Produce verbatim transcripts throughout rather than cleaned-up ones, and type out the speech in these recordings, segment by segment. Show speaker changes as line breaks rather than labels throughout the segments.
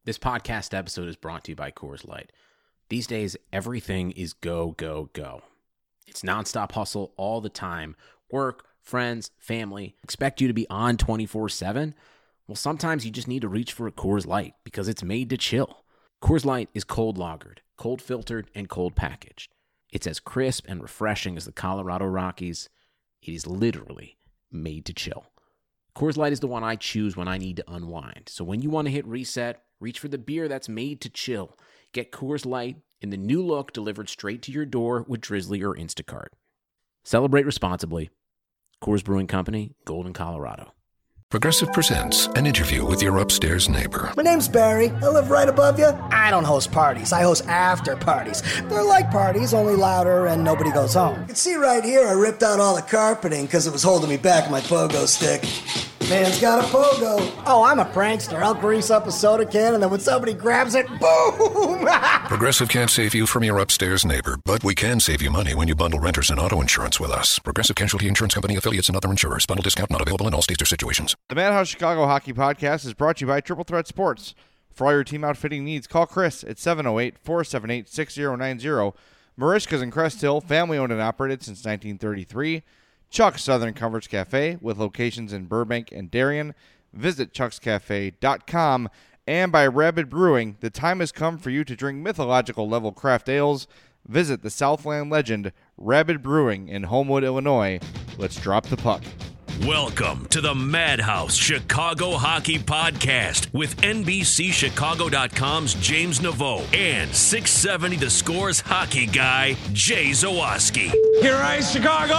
This podcast episode is brought to you by Coors Light. These days, everything is go, go, go. It's nonstop hustle all the time. Work, friends, family, expect you to be on twenty-four seven. Well, sometimes you just need to reach for a Coors Light because it's made to chill. Coors Light is cold lagered, cold filtered, and cold packaged. It's as crisp and refreshing as the Colorado Rockies. It is literally made to chill. Coors Light is the one I choose when I need to unwind. So when you want to hit reset, reach for the beer that's made to chill. Get Coors Light in the new look delivered straight to your door with Drizzly or Instacart. Celebrate responsibly. Coors Brewing Company, Golden, Colorado.
Progressive presents an interview with your upstairs neighbor.
My name's Barry. I live right above you. I don't host parties. I host after parties. They're like parties, only louder and nobody goes home. You can see right here I ripped out all the carpeting because it was holding me back with my pogo stick. Man's got a pogo. Oh, I'm a prankster. I'll grease up a soda can and then when somebody grabs it, boom!
Progressive can't save you from your upstairs neighbor, but we can save you money when you bundle renters and auto insurance with us. Progressive Casualty Insurance Company, affiliates, and other insurers. Bundle discount not available in all states or situations.
The Madhouse Chicago Hockey Podcast is brought to you by Triple Threat Sports. For all your team outfitting needs, call Chris at seven oh eight, four seven eight, six oh nine oh. Marishka's in Crest Hill, family owned and operated since nineteen thirty-three. Chuck's Southern Comforts Cafe with locations in Burbank and Darien. Visit chucks cafe dot com. And by Rabid Brewing, the time has come for you to drink mythological level craft ales. Visit the Southland legend Rabid Brewing in Homewood, Illinois. Let's drop the puck.
Welcome to the Madhouse Chicago Hockey Podcast with N B C Chicago dot com's James Naveau and six seventy The Score's hockey guy, Jay Zawaski.
Here I Chicago!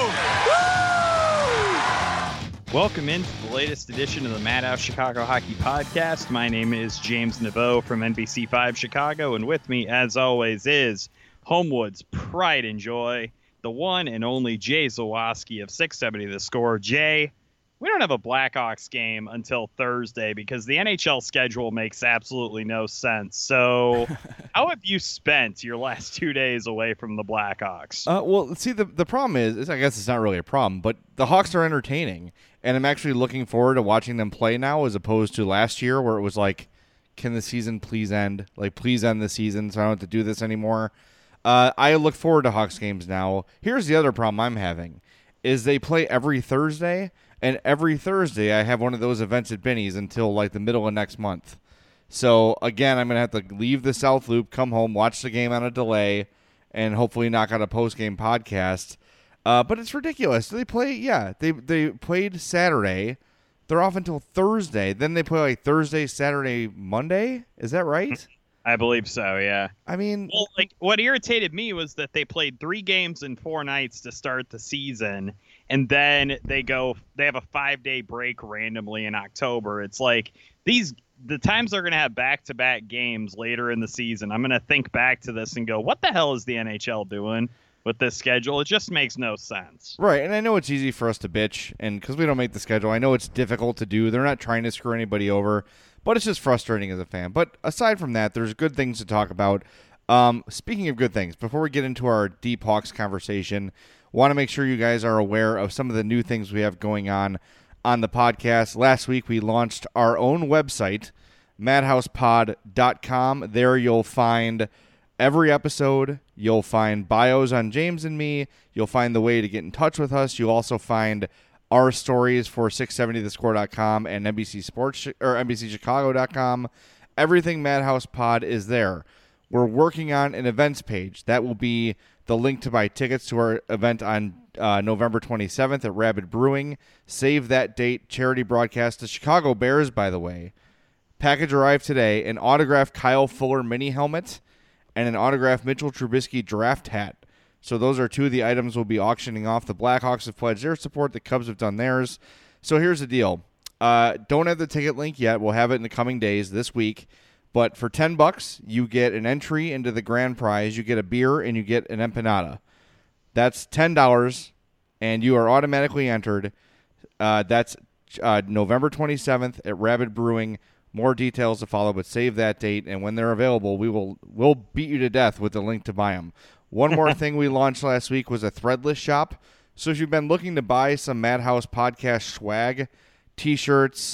Woo!
Welcome into the latest edition of the Madhouse Chicago Hockey Podcast. My name is James Naveau from N B C five Chicago, and with me, as always, is Homewood's pride and joy, the one and only Jay Zawaski of six seventy The Score. Jay, we don't have a Blackhawks game until Thursday because the N H L schedule makes absolutely no sense. So how have you spent your last two days away from the Blackhawks?
Uh, well, see, the, the problem is, is, I guess it's not really a problem, but the Hawks are entertaining, and I'm actually looking forward to watching them play now as opposed to last year where it was like, can the season please end? Like, please end the season so I don't have to do this anymore. Uh, I look forward to Hawks games now. Here's the other problem I'm having, is they play every Thursday, and every Thursday I have one of those events at Benny's until like the middle of next month. So, again, I'm going to have to leave the South Loop, come home, watch the game on a delay, and hopefully knock out a post-game podcast. Uh, but it's ridiculous. They play, yeah, they they played Saturday. They're off until Thursday. Then they play like Thursday, Saturday, Monday. Is that right?
I believe so, yeah.
I mean,
well, like what irritated me was that they played three games in four nights to start the season, and then they go they have a five-day break randomly in October. It's like these the times they're going to have back-to-back games later in the season. I'm going to think back to this and go, what the hell is the N H L doing with this schedule? It just makes no sense.
Right, and I know it's easy for us to bitch, and because we don't make the schedule, I know it's difficult to do. They're not trying to screw anybody over. But it's just frustrating as a fan. But aside from that, there's good things to talk about. Um, speaking of good things, before we get into our Deep Hawks conversation, want to make sure you guys are aware of some of the new things we have going on on the podcast. Last week, we launched our own website, madhouse pod dot com. There you'll find every episode. You'll find bios on James and me. You'll find the way to get in touch with us. You'll also find our stories for six seventy the score dot com and N B C Sports or N B C Chicago dot com. Everything Madhouse Pod is there. We're working on an events page. That will be the link to buy tickets to our event on uh, November twenty-seventh at Rabid Brewing. Save that date. Charity broadcast. The Chicago Bears, by the way. Package arrived today. An autographed Kyle Fuller mini helmet and an autographed Mitchell Trubisky draft hat. So those are two of the items we'll be auctioning off. The Blackhawks have pledged their support. The Cubs have done theirs. So here's the deal. Uh, don't have the ticket link yet. We'll have it in the coming days this week. But for ten bucks, you get an entry into the grand prize. You get a beer and you get an empanada. That's ten dollars, and you are automatically entered. Uh, that's uh, November twenty-seventh at Rabid Brewing. More details to follow, but save that date. And when they're available, we will we'll beat you to death with the link to buy them. One more thing we launched last week was a threadless shop. So if you've been looking to buy some Madhouse podcast swag, t-shirts,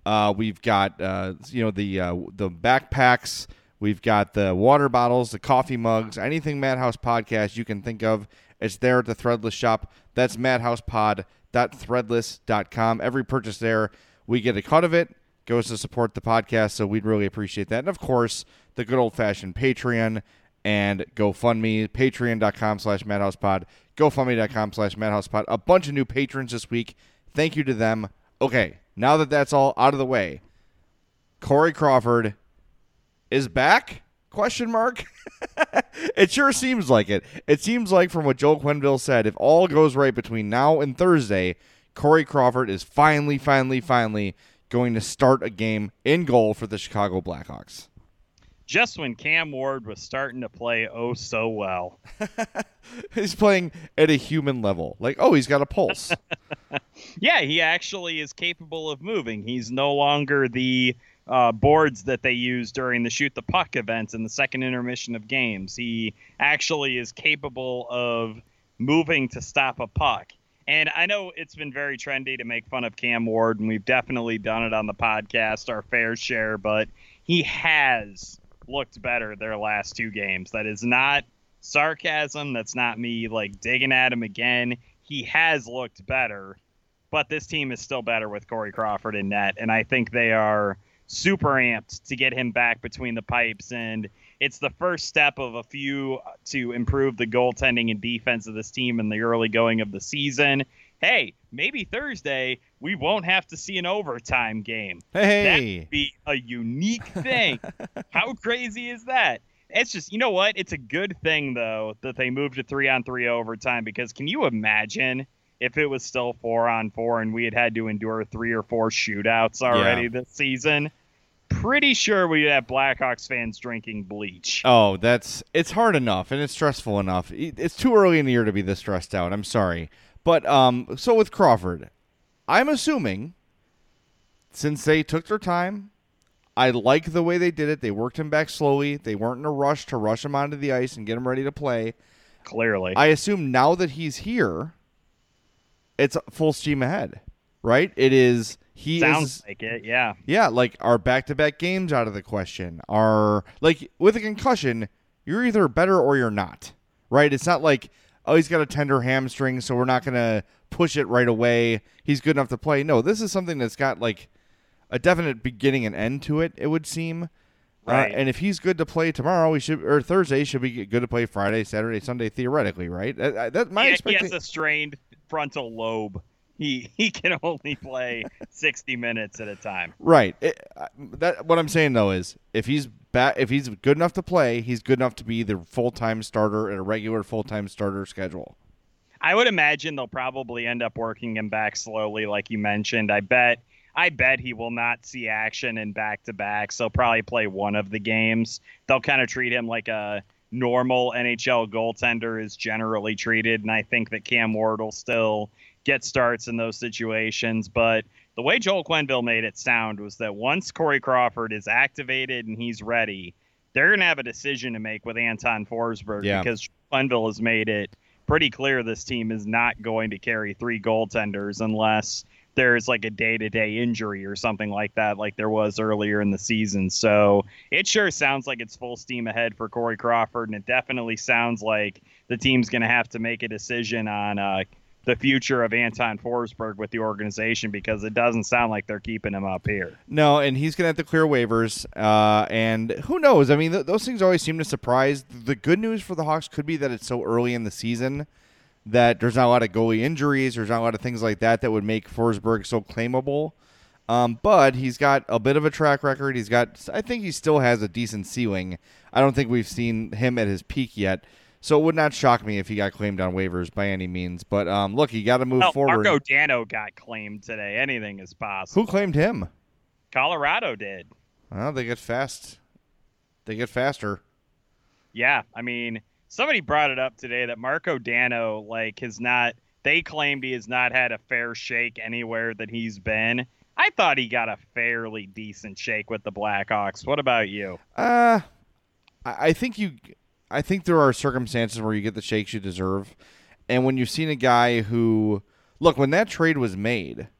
Uh, we've got uh, you know the uh, the backpacks. We've got the water bottles, the coffee mugs, anything Madhouse Podcast you can think of. It's there at the Threadless shop. That's madhouse pod dot threadless dot com. Every purchase there, we get a cut of it, goes to support the podcast, so we'd really appreciate that. And, of course, the good old-fashioned Patreon and GoFundMe, patreon.com slash madhousepod, gofundme.com slash madhousepod. A bunch of new patrons this week. Thank you to them. Okay, now that that's all out of the way, Corey Crawford is back? Question mark. It sure seems like it. It seems like from what Joel Quenneville said, if all goes right between now and Thursday, Corey Crawford is finally, finally, finally going to start a game in goal for the Chicago Blackhawks.
Just when Cam Ward was starting to play oh so well.
He's playing at a human level. Like, oh, he's got a pulse.
Yeah, he actually is capable of moving. He's no longer the uh, boards that they use during the shoot the puck events in the second intermission of games. He actually is capable of moving to stop a puck. And I know it's been very trendy to make fun of Cam Ward, and we've definitely done it on the podcast, our fair share, but he has looked better their last two games. That is not sarcasm. That's not me like digging at him again. He has looked better, but this team is still better with Corey Crawford in net, and I think they are super amped to get him back between the pipes, and it's the first step of a few to improve the goaltending and defense of this team in the early going of the season. Hey, maybe Thursday we won't have to see an overtime game.
Hey,
that would be a unique thing. How crazy is that? It's just, you know what? It's a good thing, though, that they moved to three-on-three overtime, because can you imagine if it was still four-on-four and we had had to endure three or four shootouts already yeah. this season? Pretty sure we'd have Blackhawks fans drinking bleach.
Oh, that's it's hard enough, and it's stressful enough. It's too early in the year to be this stressed out. I'm sorry. But um, so with Crawford, I'm assuming since they took their time, I like the way they did it. They worked him back slowly. They weren't in a rush to rush him onto the ice and get him ready to play.
Clearly.
I assume now that he's here, it's full steam ahead, right? It is. He
Sounds
is,
like it, yeah.
Yeah, like our back-to-back games out of the question. Are like with a concussion, you're either better or you're not, right? It's not like, oh, he's got a tender hamstring, so we're not going to push it right away. He's good enough to play. No, this is something that's got like a definite beginning and end to it, it would seem.
Right.
Uh, and if he's good to play tomorrow, we should or Thursday should be good to play Friday, Saturday, Sunday, theoretically, right? That, that my
he,
expectation.
He has a strained frontal lobe. He he can only play sixty minutes at a time.
Right. It, that what I'm saying though is if he's ba- if he's good enough to play, he's good enough to be the full-time starter at a regular full-time starter schedule.
I would imagine they'll probably end up working him back slowly, like you mentioned. I bet I bet he will not see action in back-to-backs. They'll probably play one of the games. They'll kind of treat him like a normal N H L goaltender is generally treated, and I think that Cam Ward will still get starts in those situations. But the way Joel Quenneville made it sound was that once Corey Crawford is activated and he's ready, they're going to have a decision to make with Anton Forsberg,
yeah.
because Quenneville has made it pretty clear this team is not going to carry three goaltenders unless there's like a day-to-day injury or something like that, like there was earlier in the season. So it sure sounds like it's full steam ahead for Corey Crawford, and it definitely sounds like the team's going to have to make a decision on uh, the future of Anton Forsberg with the organization, because it doesn't sound like they're keeping him up here.
No, and he's going to have to clear waivers, uh, and who knows? I mean, th- those things always seem to surprise. The good news for the Hawks could be that it's so early in the season that there's not a lot of goalie injuries, there's not a lot of things like that that would make Forsberg so claimable. Um, but he's got a bit of a track record. He's got, I think he still has a decent ceiling. I don't think we've seen him at his peak yet. So it would not shock me if he got claimed on waivers by any means. But um, look, you got to move
well,
forward.
Marco Dano got claimed today. Anything is possible.
Who claimed him?
Colorado did.
Well, they get fast. They get faster.
Yeah, I mean, somebody brought it up today that Marco Dano, like, has not. They claimed he has not had a fair shake anywhere that he's been. I thought he got a fairly decent shake with the Blackhawks. What about you?
Uh, I think you. I think there are circumstances where you get the shakes you deserve. And when you've seen a guy who, look, when that trade was made,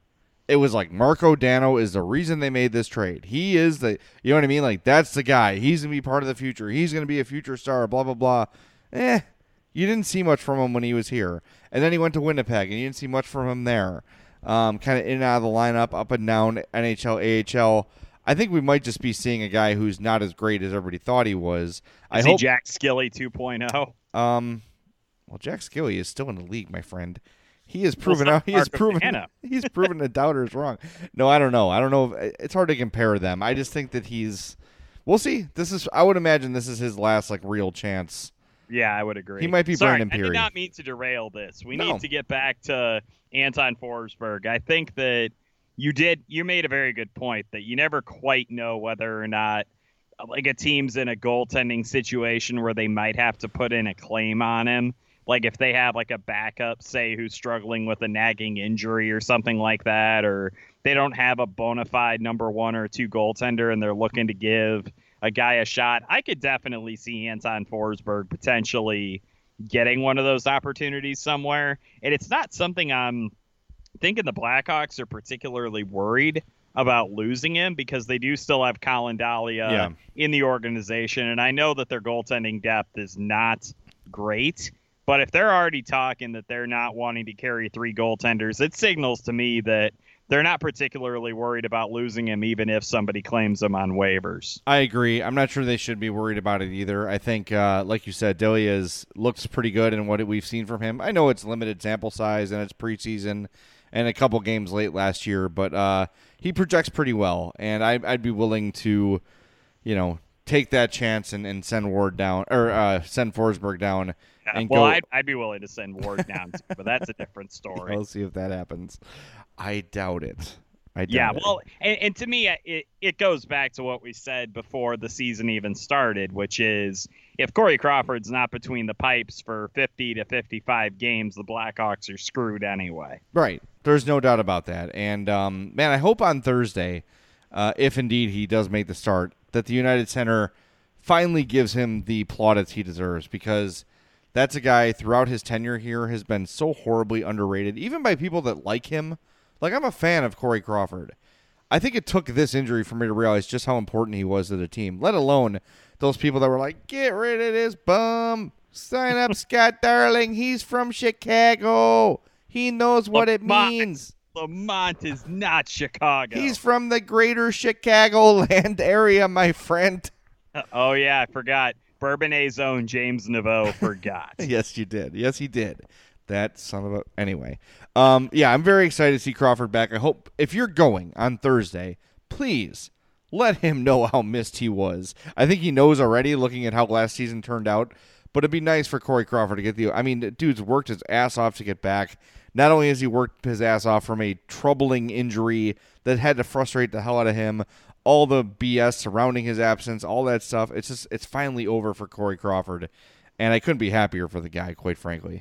it was like Marco Dano is the reason they made this trade. He is the, you know what I mean? Like, that's the guy. He's going to be part of the future. He's going to be a future star, blah, blah, blah. Eh, you didn't see much from him when he was here. And then he went to Winnipeg, and you didn't see much from him there. Um, kind of in and out of the lineup, up and down, N H L, A H L. I think we might just be seeing a guy who's not as great as everybody thought he was.
Is
I
he
hope,
Jack Skilly two point oh?
Um, well, Jack Skilly is still in the league, my friend. He has proven
Well,
out. He has
Marco
proven.
Dano.
He's proven the doubters wrong. No, I don't know. I don't know. If, it's hard to compare them. I just think that he's. We'll see. This is. I would imagine this is his last like real chance.
Yeah, I would agree.
He might be
Sorry,
Brandon
I
Peary.
did not mean to derail this. We
No.
need to get back to Anton Forsberg. I think that you did. You made a very good point that you never quite know whether or not like a team's in a goaltending situation where they might have to put in a claim on him. Like if they have like a backup, say, who's struggling with a nagging injury or something like that, or they don't have a bona fide number one or two goaltender and they're looking to give a guy a shot. I could definitely see Anton Forsberg potentially getting one of those opportunities somewhere. And it's not something I'm thinking the Blackhawks are particularly worried about losing him because they do still have Colin Dahlia
Yeah.
in the organization. And I know that their goaltending depth is not great. But if they're already talking that they're not wanting to carry three goaltenders, it signals to me that they're not particularly worried about losing him, even if somebody claims him on waivers.
I agree. I'm not sure they should be worried about it either. I think, uh, like you said, Dahlia's looks pretty good in what we've seen from him. I know it's limited sample size and it's preseason and a couple games late last year, but uh, he projects pretty well, and I, I'd be willing to, you know, take that chance and, and send Ward down or uh, send Forsberg down. And
well,
go,
I'd, I'd be willing to send Ward down, too, but that's a different story.
We'll see if that happens. I doubt it. I doubt
Yeah,
it.
well, and, and to me, it, it goes back to what we said before the season even started, which is if Corey Crawford's not between the pipes for fifty to fifty-five games, the Blackhawks are screwed anyway.
Right. There's no doubt about that. And, um, man, I hope on Thursday, uh, if indeed he does make the start, that the United Center finally gives him the plaudits he deserves, because that's a guy throughout his tenure here has been so horribly underrated, even by people that like him. Like, I'm a fan of Corey Crawford. I think it took this injury for me to realize just how important he was to the team, let alone those people that were like, get rid of this bum. Sign up Scott Darling. He's from Chicago. He knows what it
Lamont,
means.
Lamont is not Chicago.
He's from the greater Chicagoland area, my friend.
Oh, yeah, I forgot. Bourbonnais' own James Naveau forgot.
Yes, you did. Yes, he did. That son of a... Anyway. Um, yeah, I'm very excited to see Crawford back. I hope if you're going on Thursday, please let him know how missed he was. I think he knows already looking at how last season turned out, but it'd be nice for Corey Crawford to get the... I mean, the dude's worked his ass off to get back. Not only has he worked his ass off from a troubling injury that had to frustrate the hell out of him, all the B S surrounding his absence, all that stuff, it's just it's finally over for Corey Crawford, and I couldn't be happier for the guy, quite frankly.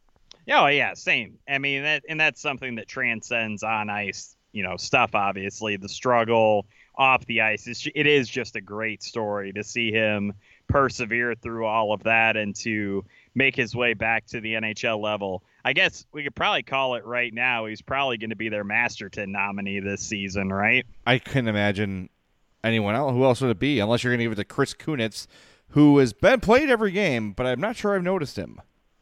Oh, yeah, same. I mean, that, and that's something that transcends on ice, you know, stuff, obviously. The struggle off the ice, is, it is just a great story to see him persevere through all of that and to make his way back to the N H L level. I guess we could probably call it right now. He's probably going to be their Masterton nominee this season, right?
I couldn't imagine anyone else. Who else would it be? Unless you're going to give it to Chris Kunitz, who has been played every game, but I'm not sure I've noticed him.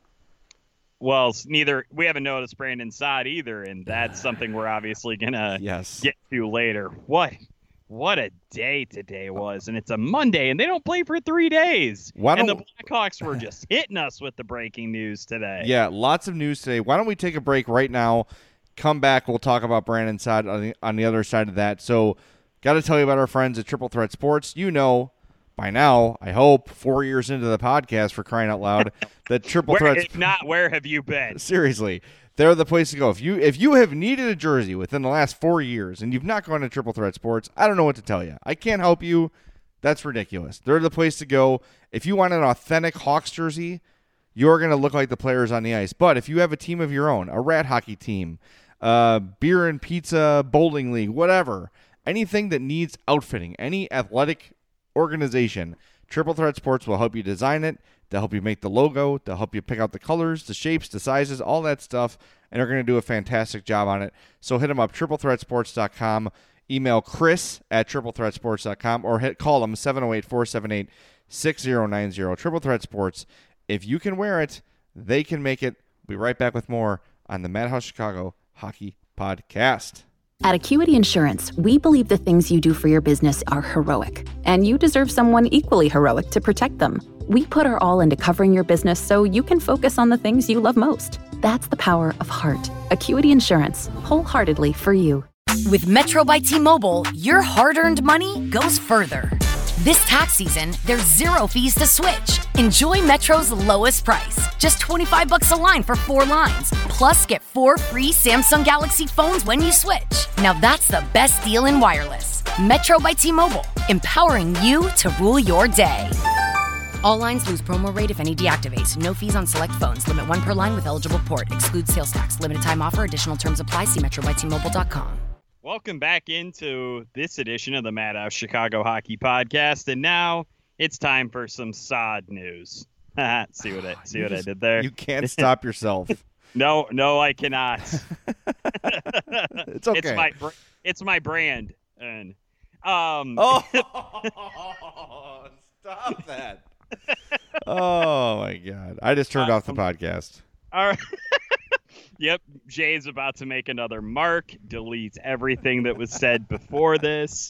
Well, neither we haven't noticed Brandon Saad either, and that's something we're obviously gonna
Yes.
get to later. What, what a day today was, and it's a Monday, and they don't play for three days.
Why
and the
don't-
Blackhawks were just hitting us with the breaking news today.
Yeah, lots of news today. Why don't we take a break right now? Come back. We'll talk about Brandon Saad on the, on the other side of that. So, got to tell you about our friends at Triple Threat Sports. You know, by now, I hope, four years into the podcast, for crying out loud, that Triple
Where,
Threat.
if not, where have you been?
Seriously, they're the place to go. If you if you have needed a jersey within the last four years and you've not gone to Triple Threat Sports, I don't know what to tell you. I can't help you. That's ridiculous. They're the place to go. If you want an authentic Hawks jersey, you're going to look like the players on the ice. But if you have a team of your own, a rat hockey team, uh, beer and pizza bowling league, whatever, anything that needs outfitting, any athletic organization, Triple Threat Sports will help you design it. They'll help you make the logo. They'll help you pick out the colors, the shapes, the sizes, all that stuff, and they're going to do a fantastic job on it. So hit them up, triple threat sports dot com. Email Chris at triple threat sports dot com or hit call them seven oh eight, four seven eight, six oh nine oh. Triple Threat Sports. If you can wear it, they can make it. We'll be right back with more on the Madhouse Chicago Hockey Podcast.
At Acuity Insurance, we believe the things you do for your business are heroic, and you deserve someone equally heroic to protect them. We put our all into covering your business so you can focus on the things you love most. That's the power of heart. Acuity Insurance, wholeheartedly for you.
With Metro by T-Mobile, your hard-earned money goes further. This tax season, there's zero fees to switch. Enjoy Metro's lowest price, just twenty-five bucks a line for four lines. Plus, get four free Samsung Galaxy phones when you switch. Now that's the best deal in wireless. Metro by T-Mobile, empowering you to rule your day. All lines lose promo rate if any deactivates. No fees on select phones. Limit one per line with eligible port. Excludes sales tax. Limited time offer. Additional terms apply. See metro by t mobile dot com.
Welcome back into this edition of the Madhouse Chicago Hockey Podcast, and now it's time for some S O D news. see what I see what just, I did there?
You can't stop yourself.
no, no, I cannot.
It's okay.
It's my it's my brand. And um.
Oh, stop that! Oh my God! I just turned um, off the podcast.
All right. Yep, Jay's about to make another mark, delete everything that was said before this.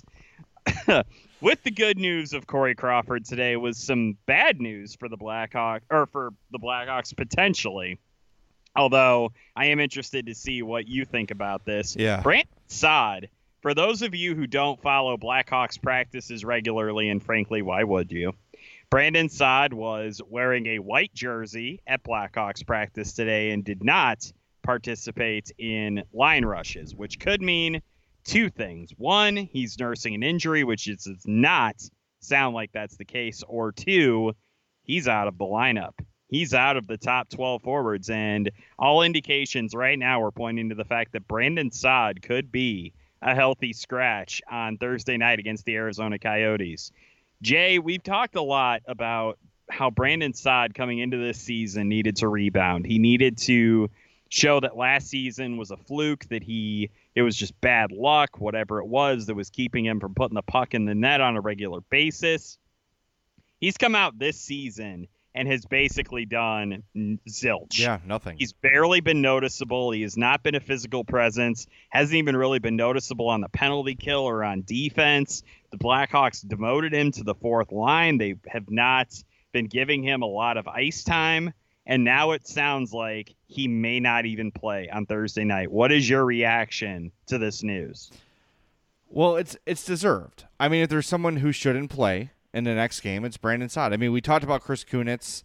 With the good news of Corey Crawford today was some bad news for the Blackhawks, or for the Blackhawks potentially. Although I am interested to see what you think about this.
Yeah.
Brandon Saad, for those of you who don't follow Blackhawks practices regularly, and frankly, why would you? Brandon Saad was wearing a white jersey at Blackhawks practice today and did not participate in line rushes, which could mean two things. One, he's nursing an injury, which is, does not sound like that's the case. Or two, he's out of the lineup. He's out of the top twelve forwards, and all indications right now are pointing to the fact that Brandon Saad could be a healthy scratch on Thursday night against the Arizona Coyotes. Jay, we've talked a lot about how Brandon Saad coming into this season needed to rebound. He needed to show that last season was a fluke, that he it was just bad luck, whatever it was that was keeping him from putting the puck in the net on a regular basis. He's come out this season and has basically done zilch.
Yeah, nothing.
He's barely been noticeable. He has not been a physical presence, hasn't even really been noticeable on the penalty kill or on defense. The Blackhawks demoted him to the fourth line. They have not been giving him a lot of ice time. And now it sounds like he may not even play on Thursday night. What is your reaction to this news?
Well, it's it's deserved. I mean, if there's someone who shouldn't play in the next game, it's Brandon Saad. I mean, we talked about Chris Kunitz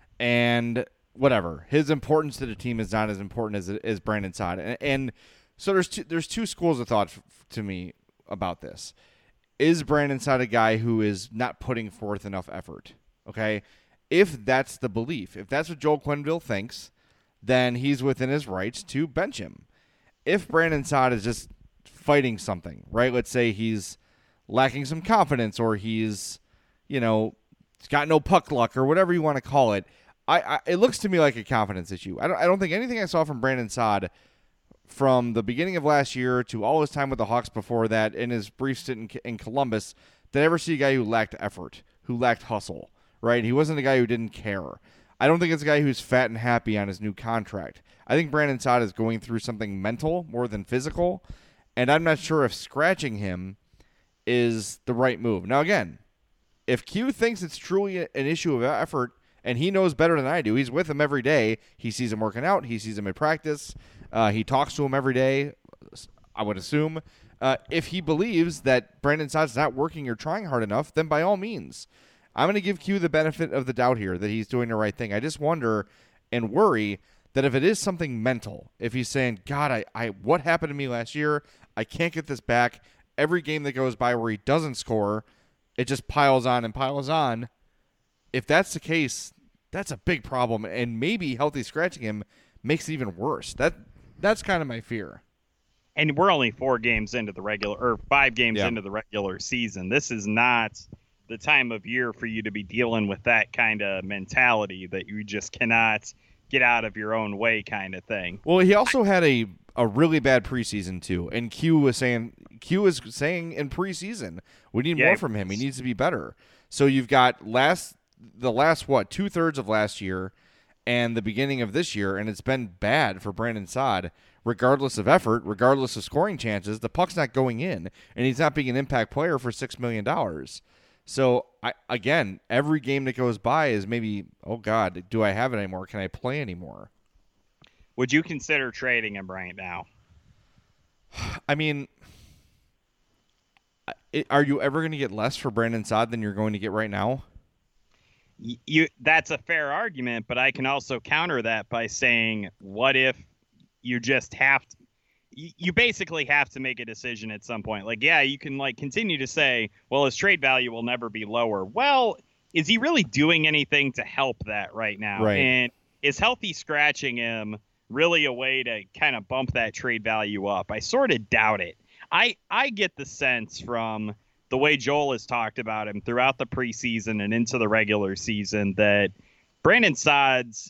and whatever. His importance to the team is not as important as as Brandon Saad. And, and so there's two, there's two schools of thought f- to me about this. Is Brandon Saad a guy who is not putting forth enough effort? Okay? If that's the belief, if that's what Joel Quenneville thinks, then he's within his rights to bench him. If Brandon Saad is just fighting something, right? Let's say he's lacking some confidence, or he's, you know, he's got no puck luck, or whatever you want to call it. I, I it looks to me like a confidence issue. I don't I don't think anything I saw from Brandon Saad from the beginning of last year to all his time with the Hawks before that, in his brief stint in, in Columbus, did I ever see a guy who lacked effort, who lacked hustle. Right? He wasn't a guy who didn't care. I don't think it's a guy who's fat and happy on his new contract. I think Brandon Saad is going through something mental more than physical, and I'm not sure if scratching him is the right move. Now, again, if Q thinks it's truly an issue of effort, and he knows better than I do, he's with him every day. He sees him working out. He sees him at practice. Uh, he talks to him every day, I would assume. Uh, if he believes that Brandon Saad's not working or trying hard enough, then by all means, I'm going to give Q the benefit of the doubt here that he's doing the right thing. I just wonder and worry that if it is something mental, if he's saying, God, I, I what happened to me last year? I can't get this back. Every game that goes by where he doesn't score, it just piles on and piles on. If that's the case, that's a big problem, and maybe healthy scratching him makes it even worse. That That's kind of my fear.
And we're only four games into the regular, or five games
yeah.
into the regular season. This is not the time of year for you to be dealing with that kind of mentality that you just cannot get out of your own way kind of thing.
Well, he also had a, a really bad preseason too, and Q was saying Q was saying in preseason we need
yeah,
more from him. He needs to be better. So you've got last the last what two thirds of last year and the beginning of this year, and it's been bad for Brandon Saad. Regardless of effort, regardless of scoring chances, the puck's not going in, and he's not being an impact player for six million dollars. So, I again, every game that goes by is maybe, oh, God, do I have it anymore? Can I play anymore?
Would you consider trading him right now?
I mean, are you ever going to get less for Brandon Saad than you're going to get right now?
You, that's a fair argument, but I can also counter that by saying, what if you just have to, you basically have to make a decision at some point. Like, yeah, you can like continue to say, well, his trade value will never be lower. Well, is he really doing anything to help that right now?
Right.
And is healthy scratching him really a way to kind of bump that trade value up? I sort of doubt it. I, I get the sense from the way Joel has talked about him throughout the preseason and into the regular season that Brandon Saad's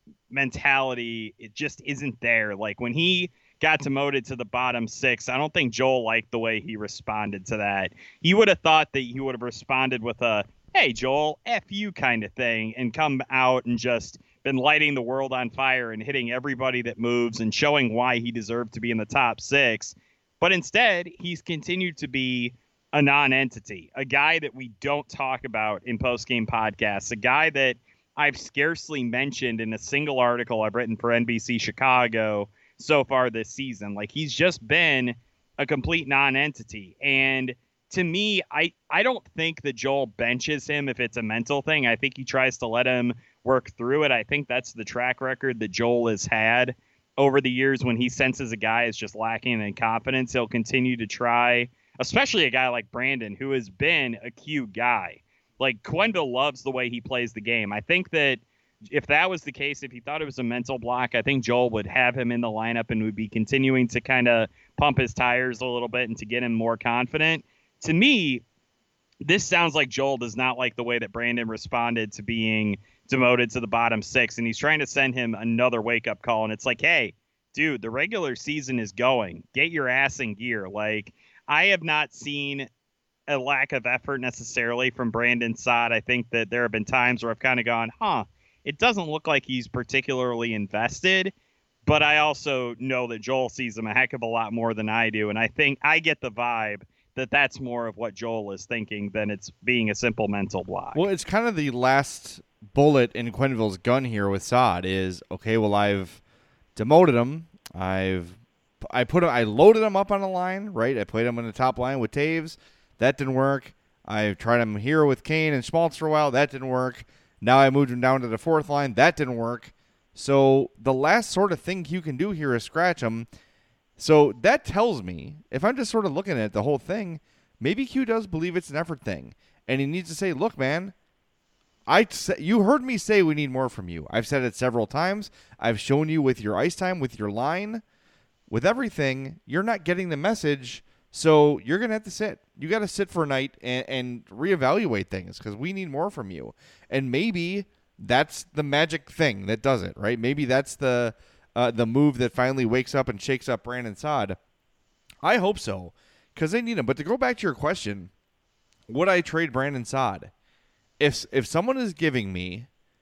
mentality, it just isn't there. Like when he got demoted to the bottom six, I don't think Joel liked the way he responded to that. He would have thought that he would have responded with a, hey, Joel, F you kind of thing, and come out and just been lighting the world on fire and hitting everybody that moves and showing why he deserved to be in the top six. But instead, he's continued to be a non-entity, a guy that we don't talk about in post-game podcasts, a guy that I've scarcely mentioned in a single article I've written for N B C Chicago so far this season. Like, he's just been a complete non-entity. And to me, I, I don't think that Joel benches him if it's a mental thing. I think he tries to let him work through it. I think that's the track record that Joel has had over the years. When he senses a guy is just lacking in confidence, he'll continue to try, especially a guy like Brandon, who has been a cute guy. Like, Quenneville loves the way he plays the game. I think that if that was the case, if he thought it was a mental block, I think Joel would have him in the lineup and would be continuing to kind of pump his tires a little bit and to get him more confident. To me, this sounds like Joel does not like the way that Brandon responded to being demoted to the bottom six, and he's trying to send him another wake-up call. And it's like, hey, dude, the regular season is going. Get your ass in gear. Like, I have not seen a lack of effort necessarily from Brandon Saad. I think that there have been times where I've kind of gone, huh, it doesn't look like he's particularly invested, but I also know that Joel sees him a heck of a lot more than I do. And I think I get the vibe that that's more of what Joel is thinking than it's being a simple mental block.
Well, it's kind of the last bullet in Quenneville's gun here with Saad is, okay, well, I've demoted him. I've, I put him, I loaded him up on a line, right? I played him on the top line with Taves. That didn't work. I tried him here with Kane and Schmaltz for a while. That didn't work. Now I moved him down to the fourth line. That didn't work. So the last sort of thing you can do here is scratch him. So that tells me, if I'm just sort of looking at the whole thing, maybe Q does believe it's an effort thing. And he needs to say, look, man, I you heard me say we need more from you. I've said it several times. I've shown you with your ice time, with your line, with everything. You're not getting the message. So you're going to have to sit. You got to sit for a night and, and reevaluate things because we need more from you. And maybe that's the magic thing that does it, right? Maybe that's the uh, the move that finally wakes up and shakes up Brandon Saad. I hope so because they need him. But to go back to your question, would I trade Brandon Saad? If, if someone is giving me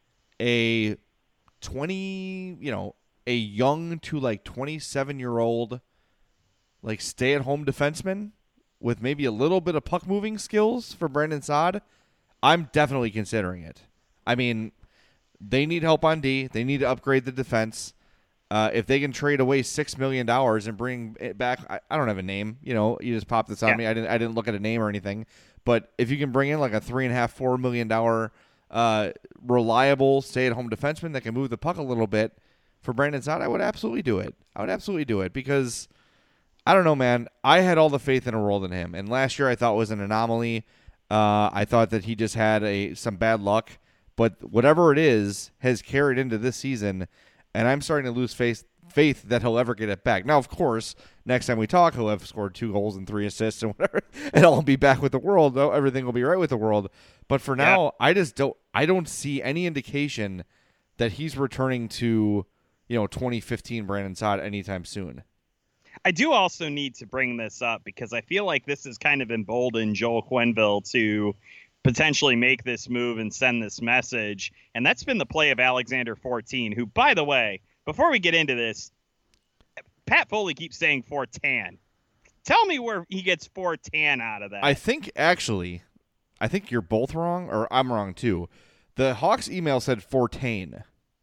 a twenty, you know, a young to like twenty-seven-year-old like stay-at-home defenseman with maybe a little bit of puck-moving skills for Brandon Saad, I'm definitely considering it. I mean, they need help on D. They need to upgrade the defense. Uh, if they can trade away six million dollars and bring it back, I, I don't have a name. You know, you just popped this on yeah. me. I didn't I didn't look at a name or anything. But if you can bring in like a three and a half, four million dollar uh, reliable stay-at-home defenseman that can move the puck a little bit for Brandon Saad, I would absolutely do it. I would absolutely do it because I don't know, man. I had all the faith in the world in him, and last year I thought was an anomaly. Uh, I thought that he just had a some bad luck, but whatever it is has carried into this season, and I'm starting to lose faith faith that he'll ever get it back. Now, of course, next time we talk, he'll have scored two goals and three assists and whatever, and I'll be back with the world. Though everything will be right with the world. But for now, yeah. I just don't. I don't see any indication that he's returning to, you know, twenty fifteen Brandon Saad anytime soon.
I do also need to bring this up because I feel like this has kind of emboldened Joel Quenneville to potentially make this move and send this message. And that's been the play of Alexander fourteen, who, by the way, before we get into this, Pat Foley keeps saying Fortan. Tell me where he gets Fortan out of that.
I think, actually, I think you're both wrong, or I'm wrong too. The Hawks email said Fortain.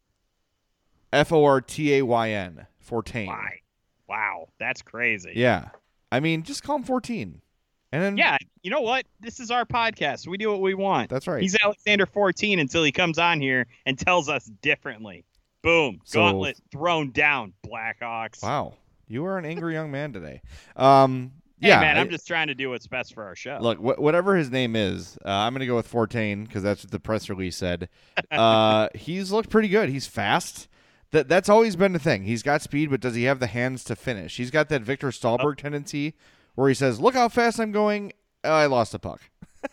F O R T A Y N. Fortain.
Why? Wow, that's crazy.
Yeah. I mean, just call him fourteen. And then
Yeah, you know what? This is our podcast. We do what we want.
That's right.
He's Alexander fourteen until he comes on here and tells us differently. Boom.
So,
Gauntlet thrown down, Blackhawks.
Wow. You are an angry young man today. Um,
hey,
yeah,
man, I'm
I,
just trying to do what's best for our show.
Look, wh- whatever his name is, uh, I'm going to go with Fortain because that's what the press release said. Uh, he's looked pretty good. He's fast. That That's always been the thing. He's got speed, but does he have the hands to finish? He's got that Victor Stahlberg oh. tendency where he says, look how fast I'm going. Oh, I lost the puck.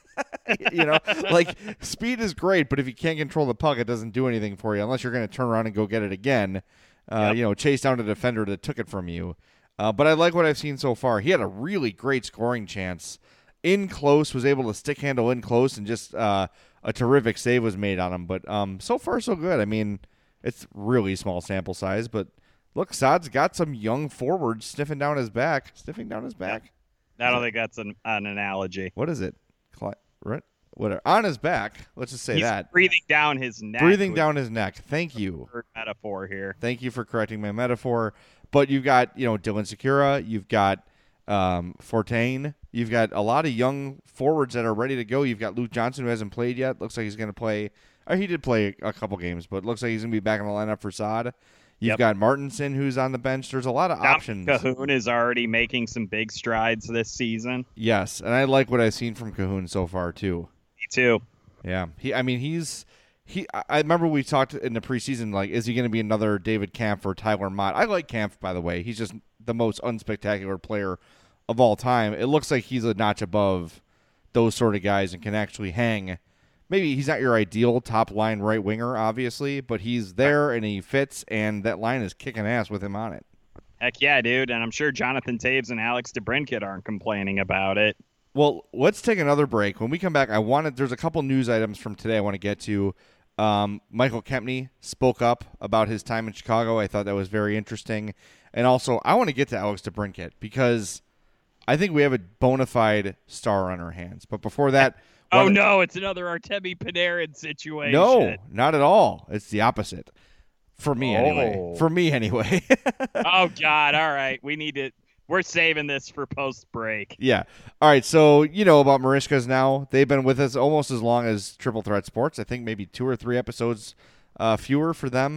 You know, like speed is great, but if you can't control the puck, it doesn't do anything for you unless you're going to turn around and go get it again. Uh, yep. You know, chase down a defender that took it from you. Uh, but I like what I've seen so far. He had a really great scoring chance in close, was able to stick handle in close, and just uh, a terrific save was made on him. But um, so far, so good. I mean, it's really small sample size, but look, Saad's got some young forwards sniffing down his back. Sniffing down his back?
Yeah. I don't think that's an, an analogy.
What is it? Cli- right? Whatever. On his back. Let's just say
He's
that.
breathing down his neck.
Breathing down his neck. Thank you.
Metaphor here.
Thank you for correcting my metaphor. But you've got, you know, Dylan Secura. You've got um, Fortain. You've got a lot of young forwards that are ready to go. You've got Luke Johnson, who hasn't played yet. Looks like he's going to play. Or he did play a couple games, but looks like he's going to be back in the lineup for Saad. You've yep. got Martinson, who's on the bench. There's a lot of
Dominic
options.
Cahoon is already making some big strides this season.
Yes, and I like what I've seen from Cahoon so far, too.
Me too.
Yeah. he. I mean, he's he. I remember we talked in the preseason, like, is he going to be another David Kampf or Tyler Mott? I like Kampf, by the way. He's just the most unspectacular player of all time. It looks like he's a notch above those sort of guys and can actually hang. Maybe he's not your ideal top-line right winger, obviously, but he's there and he fits, and that line is kicking ass with him on it.
Heck yeah, dude, and I'm sure Jonathan Toews and Alex DeBrincat aren't complaining about it.
Well, let's take another break. When we come back, I wanted there's a couple news items from today I want to get to. Um, Michael Kempny spoke up about his time in Chicago. I thought that was very interesting. And also, I want to get to Alex DeBrincat because I think we have a bona fide star on our hands. But before that...
Oh, no, it's another Artemi Panarin situation.
No, not at all. It's the opposite. For me,
oh.
anyway. For me, anyway.
Oh, God. All right. We need to – we're saving this for post-break.
Yeah. All right, so you know about Marishkas now. They've been with us almost as long as Triple Threat Sports. I think maybe two or three episodes uh, fewer for them.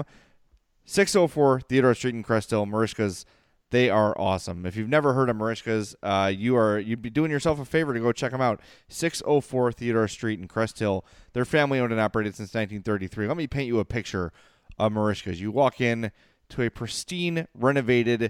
six oh four Theodore Street in Crest Hill, Marishkas. They are awesome. If you've never heard of Marishkas, uh, you are you'd be doing yourself a favor to go check them out. six oh four Theodore Street in Crest Hill. They're family owned and operated since nineteen thirty-three. Let me paint you a picture of Marishkas. You walk in to a pristine, renovated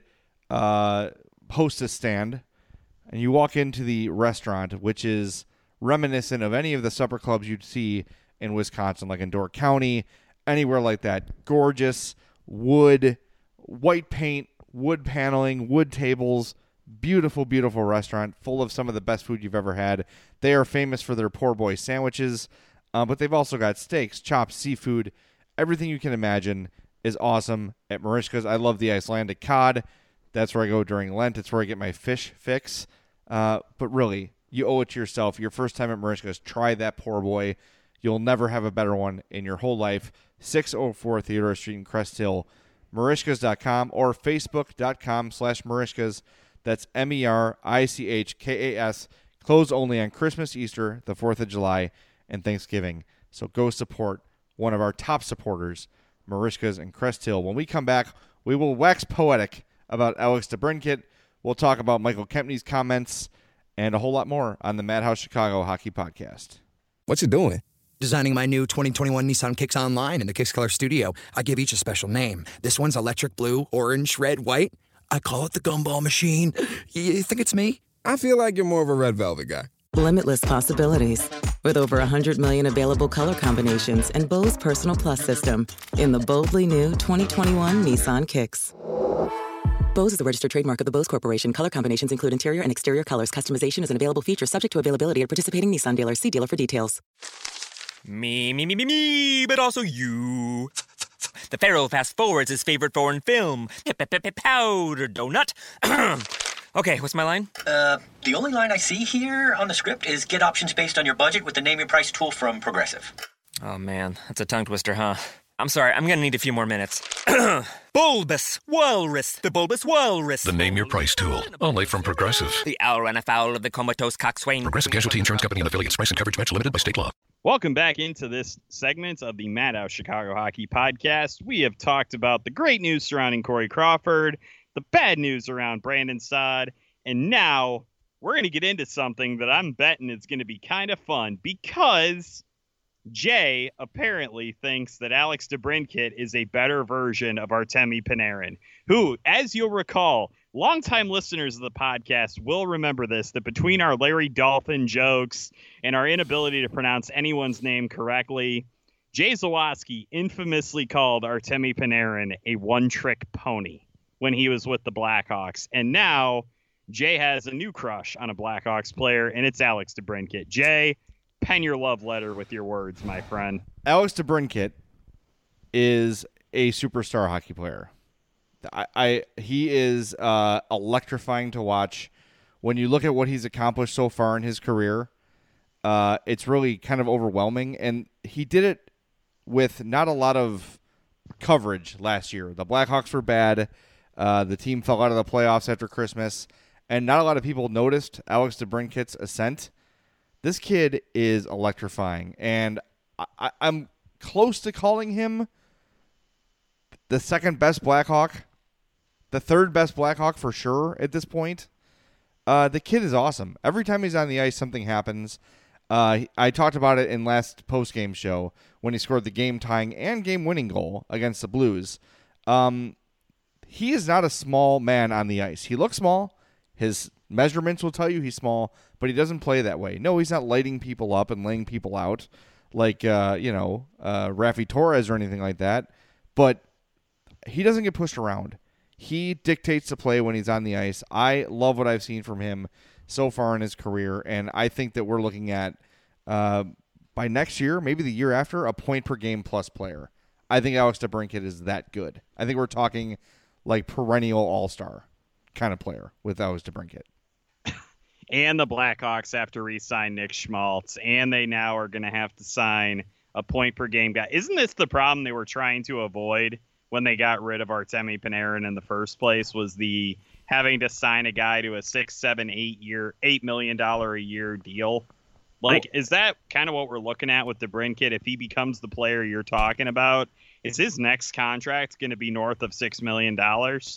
uh, hostess stand, and you walk into the restaurant, which is reminiscent of any of the supper clubs you'd see in Wisconsin, like in Door County, anywhere like that. Gorgeous wood, white paint, wood paneling, wood tables, beautiful, beautiful restaurant full of some of the best food you've ever had. They are famous for their poor boy sandwiches, uh, but they've also got steaks, chops, seafood. Everything you can imagine is awesome at Marishkas. I love the Icelandic cod. That's where I go during Lent. It's where I get my fish fix. Uh, but really, you owe it to yourself. Your first time at Marishkas, try that poor boy. You'll never have a better one in your whole life. six oh four Theodore Street in Crest Hill. Marishkas dot com or Facebook.com slash Marishkas. That's M E R I C H K A S. Closed only on Christmas, Easter, the fourth of July, and Thanksgiving. So go support one of our top supporters, Marishkas and Crest Hill. When we come back, we will wax poetic about Alex DeBrincat. We'll talk about Michael Kempny's comments and a whole lot more on the Madhouse Chicago Hockey Podcast.
What you doing? Designing my new twenty twenty-one Nissan Kicks online in the Kicks Color Studio, I give each a special name. This one's electric blue, orange, red, white. I call it the Gumball Machine. You think it's me?
I feel like you're more of a red velvet guy.
Limitless possibilities. With over one hundred million available color combinations and Bose Personal Plus system in the boldly new twenty twenty-one Nissan Kicks. Bose is a registered trademark of the Bose Corporation. Color combinations include interior and exterior colors. Customization is an available feature subject to availability at participating Nissan dealers. See dealer for details.
Me, me, me, me, me, but also you. The Pharaoh fast forwards his favorite foreign film, Powder Donut. Okay, what's my line?
Uh, the only line I see here on the script is get options based on your budget with the Name Your Price tool from Progressive.
Oh man, that's a tongue twister, huh? I'm sorry, I'm gonna need a few more minutes. Bulbous Walrus, the Bulbous Walrus.
The Name Your Price tool, only from Progressive.
The owl ran afoul of the comatose coxswain.
Progressive Casualty Insurance Company and affiliates. Price and coverage match limited by state law.
Welcome back into this segment of the Madhouse Chicago Hockey Podcast. We have talked about the great news surrounding Corey Crawford, the bad news around Brandon Saad, and now we're going to get into something that I'm betting is going to be kind of fun because Jay apparently thinks that Alex DeBrincat is a better version of Artemi Panarin, who, as you'll recall, longtime listeners of the podcast will remember this, that between our Larry Dolphin jokes and our inability to pronounce anyone's name correctly, Jay Zawaski infamously called Artemi Panarin a one-trick pony when he was with the Blackhawks. And now Jay has a new crush on a Blackhawks player, and it's Alex DeBrincat. Jay, pen your love letter with your words, my friend.
Alex DeBrincat is a superstar hockey player. I, I he is uh, electrifying to watch. When you look at what he's accomplished so far in his career, uh, it's really kind of overwhelming. And he did it with not a lot of coverage last year. The Blackhawks were bad. Uh, the team fell out of the playoffs after Christmas, and not a lot of people noticed Alex DeBrincat's ascent. This kid is electrifying, and I, I'm close to calling him the second best Blackhawk, the third best Blackhawk for sure at this point. Uh, the kid is awesome. Every time he's on the ice, something happens. Uh, I talked about it in last postgame show when he scored the game-tying and game-winning goal against the Blues. Um, he is not a small man on the ice. He looks small. His measurements will tell you he's small, but he doesn't play that way. No, he's not lighting people up and laying people out like, uh, you know, uh, Rafi Torres or anything like that. But he doesn't get pushed around. He dictates the play when he's on the ice. I love what I've seen from him so far in his career, and I think that we're looking at, uh, by next year, maybe the year after, a point-per-game plus player. I think Alex DeBrincat is that good. I think we're talking like perennial all-star kind of player with Alex DeBrincat.
And the Blackhawks have to re-sign Nick Schmaltz, and they now are going to have to sign a point-per-game guy. Isn't this the problem they were trying to avoid when they got rid of Artemi Panarin in the first place, was the having to sign a guy to a six, seven, eight year, eight million dollar a year deal? Like, oh. Is that kind of what we're looking at with DeBrincat? If he becomes the player you're talking about, is his next contract going to be north of six million dollars?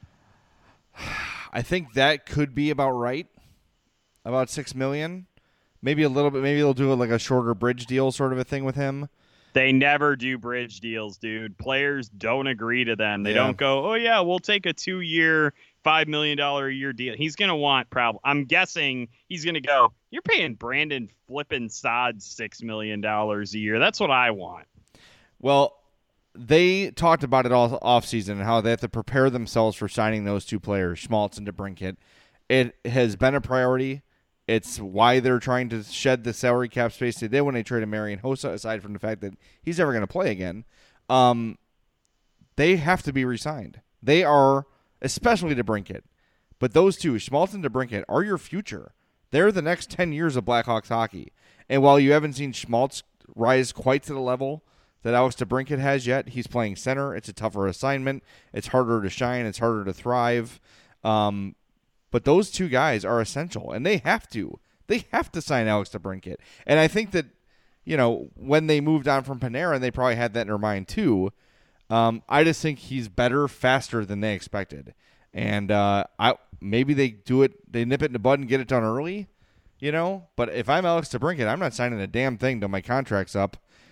I think that could be about right. About six million dollars. Maybe a little bit. Maybe they'll do like a shorter bridge deal sort of a thing with him.
They never do bridge deals, dude. Players don't agree to them. They
Yeah.
don't go, oh, yeah, we'll take a two-year, five million dollars a year deal. He's going to want probably, I'm guessing he's going to go, you're paying Brandon flippin' Saad six million dollars a year. That's what I want.
Well, they talked about it all offseason and how they have to prepare themselves for signing those two players, Schmaltz and DeBrincat. It has been a priority. It's why they're trying to shed the salary cap space they did when they traded Marian Hossa, aside from the fact that he's never going to play again. Um, they have to be re-signed. They are, especially DeBrincat. But those two, Schmaltz and DeBrincat, are your future. They're the next ten years of Blackhawks hockey. And while you haven't seen Schmaltz rise quite to the level that Alex DeBrincat has yet, he's playing center. It's a tougher assignment. It's harder to shine. It's harder to thrive. Um, but those two guys are essential, and they have to. They have to sign Alex DeBrincat. And I think that, you know, when they moved on from Panarin, they probably had that in their mind too. Um, I just think he's better, faster than they expected. And uh, I maybe they do it, they nip it in the bud and get it done early. you know? But if I'm Alex DeBrincat, I'm not signing a damn thing till my contract's up.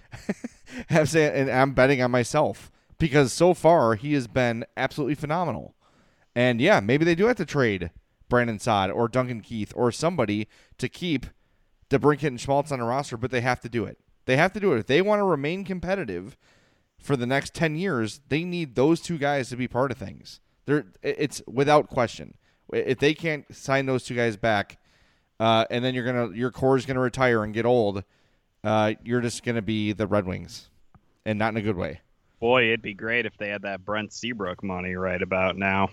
Have say, and I'm betting on myself because so far he has been absolutely phenomenal. And yeah, maybe they do have to trade Brandon Saad or Duncan Keith or somebody to keep DeBrincat and Schmaltz on the roster, but they have to do it. They have to do it. If they want to remain competitive for the next ten years, they need those two guys to be part of things. They're, it's without question. If they can't sign those two guys back, uh, and then you're gonna your core is gonna retire and get old, uh, you're just gonna be the Red Wings, and not in a good way.
Boy, it'd be great if they had that Brent Seabrook money right about now.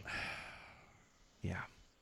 Yeah.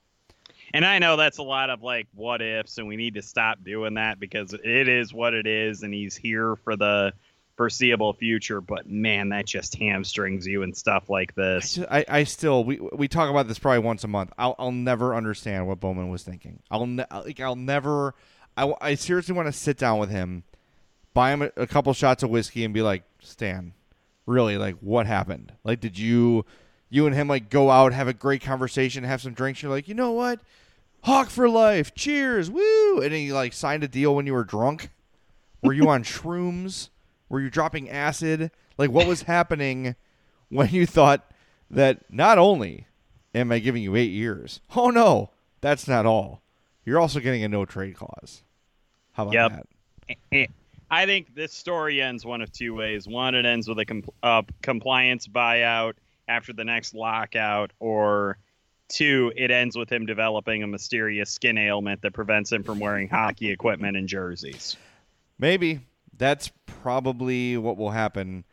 And I know that's a lot of like what ifs, and we need to stop doing that because it is what it is, and he's here for the foreseeable future. But man, that just hamstrings you and stuff like this.
I, just, I, I still we we talk about this probably once a month. I'll I'll never understand what Bowman was thinking. I'll ne- like I'll never. I, I seriously want to sit down with him, buy him a, a couple shots of whiskey, and be like, Stan, really, like what happened? Like, did you you and him like go out, have a great conversation, have some drinks? You're like, you know what? Hawk for life, cheers, woo! And then you like signed a deal when you were drunk. Were you on shrooms? Were you dropping acid? Like, what was happening when you thought that not only am I giving you eight years? Oh no, that's not all. You're also getting a no trade clause. How about
yep.
that?
I think this story ends one of two ways. One, it ends with a compl- uh, compliance buyout after the next lockout, or two, it ends with him developing a mysterious skin ailment that prevents him from wearing hockey equipment and jerseys.
Maybe. That's probably what will happen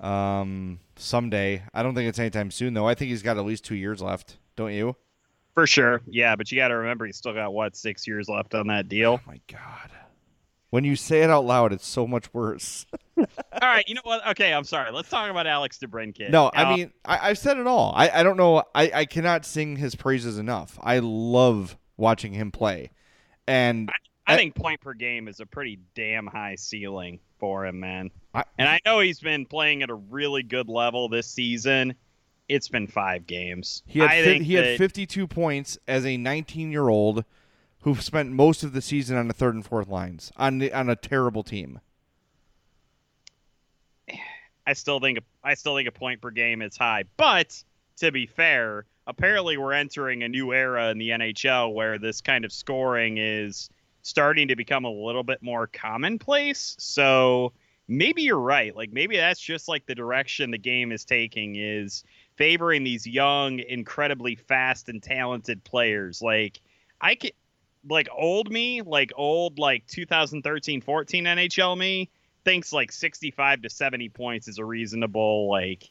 um, someday. I don't think it's anytime soon, though. I think he's got at least two years left. Don't you?
For sure. Yeah, but you got to remember he's still got, what, six years left on that deal?
Oh, my God. When you say it out loud, it's so much worse.
All right, you know what? Okay, I'm sorry. Let's talk about Alex DeBrincat.
No,
now,
I mean, I, I've said it all. I, I don't know. I, I cannot sing his praises enough. I love watching him play. And
I, I think point per game is a pretty damn high ceiling for him, man.
I,
and I know he's been playing at a really good level this season. It's been five games.
He had,
I
fi-
think
he
that,
had fifty-two points as a nineteen-year-old who spent most of the season on the third and fourth lines on the, on a terrible team.
I still think I still think a point per game is high, but to be fair, apparently we're entering a new era in the N H L where this kind of scoring is starting to become a little bit more commonplace. So maybe you're right. Like maybe that's just like the direction the game is taking, is favoring these young, incredibly fast and talented players. Like I could, like old me, like old like two thousand thirteen fourteen N H L me thinks like sixty-five to seventy points is a reasonable like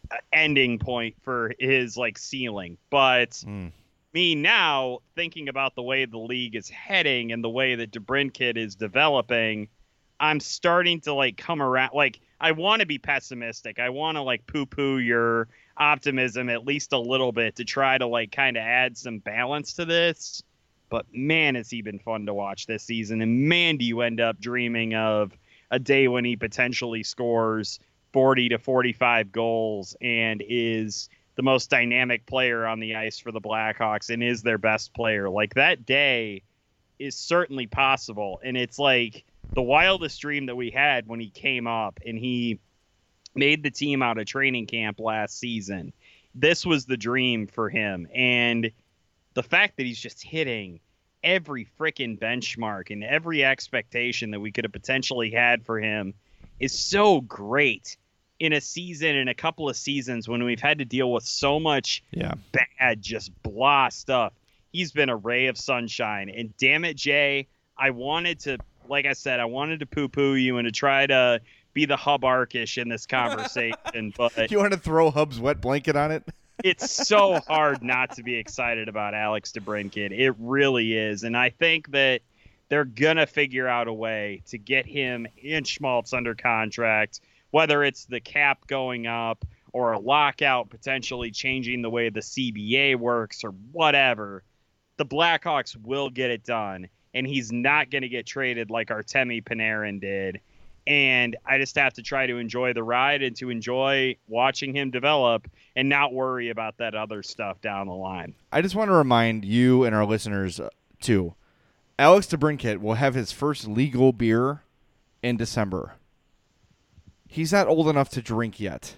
ending point for his like ceiling. But
mm.
me now thinking about the way the league is heading and the way that DeBrincat is developing, I'm starting to like come around. Like I want to be pessimistic. I want to like poo-poo your optimism at least a little bit to try to like kind of add some balance to this. But man, has he been fun to watch this season. And man, do you end up dreaming of a day when he potentially scores forty to forty-five goals and is the most dynamic player on the ice for the Blackhawks and is their best player. Like that day is certainly possible. And it's like the wildest dream that we had when he came up and he made the team out of training camp last season. This was the dream for him. And the fact that he's just hitting every freaking benchmark and every expectation that we could have potentially had for him is so great in a season, in a couple of seasons when we've had to deal with so much
yeah.
bad, just blah stuff. He's been a ray of sunshine. And damn it, Jay, I wanted to, like I said, I wanted to poo-poo you and to try to be the Hub-arkish in this conversation. But
you want to throw Hub's wet blanket on it?
It's so hard not to be excited about Alex DeBrincat. It really is. And I think that they're going to figure out a way to get him and Schmaltz under contract, whether it's the cap going up or a lockout potentially changing the way the C B A works or whatever. The Blackhawks will get it done, and he's not going to get traded like Artemi Panarin did. And I just have to try to enjoy the ride and to enjoy watching him develop and not worry about that other stuff down the line.
I just want to remind you and our listeners, uh, too, Alex DeBrincat will have his first legal beer in December. He's not old enough to drink yet.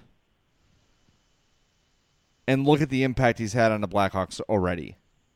And look at the impact he's had on the Blackhawks already.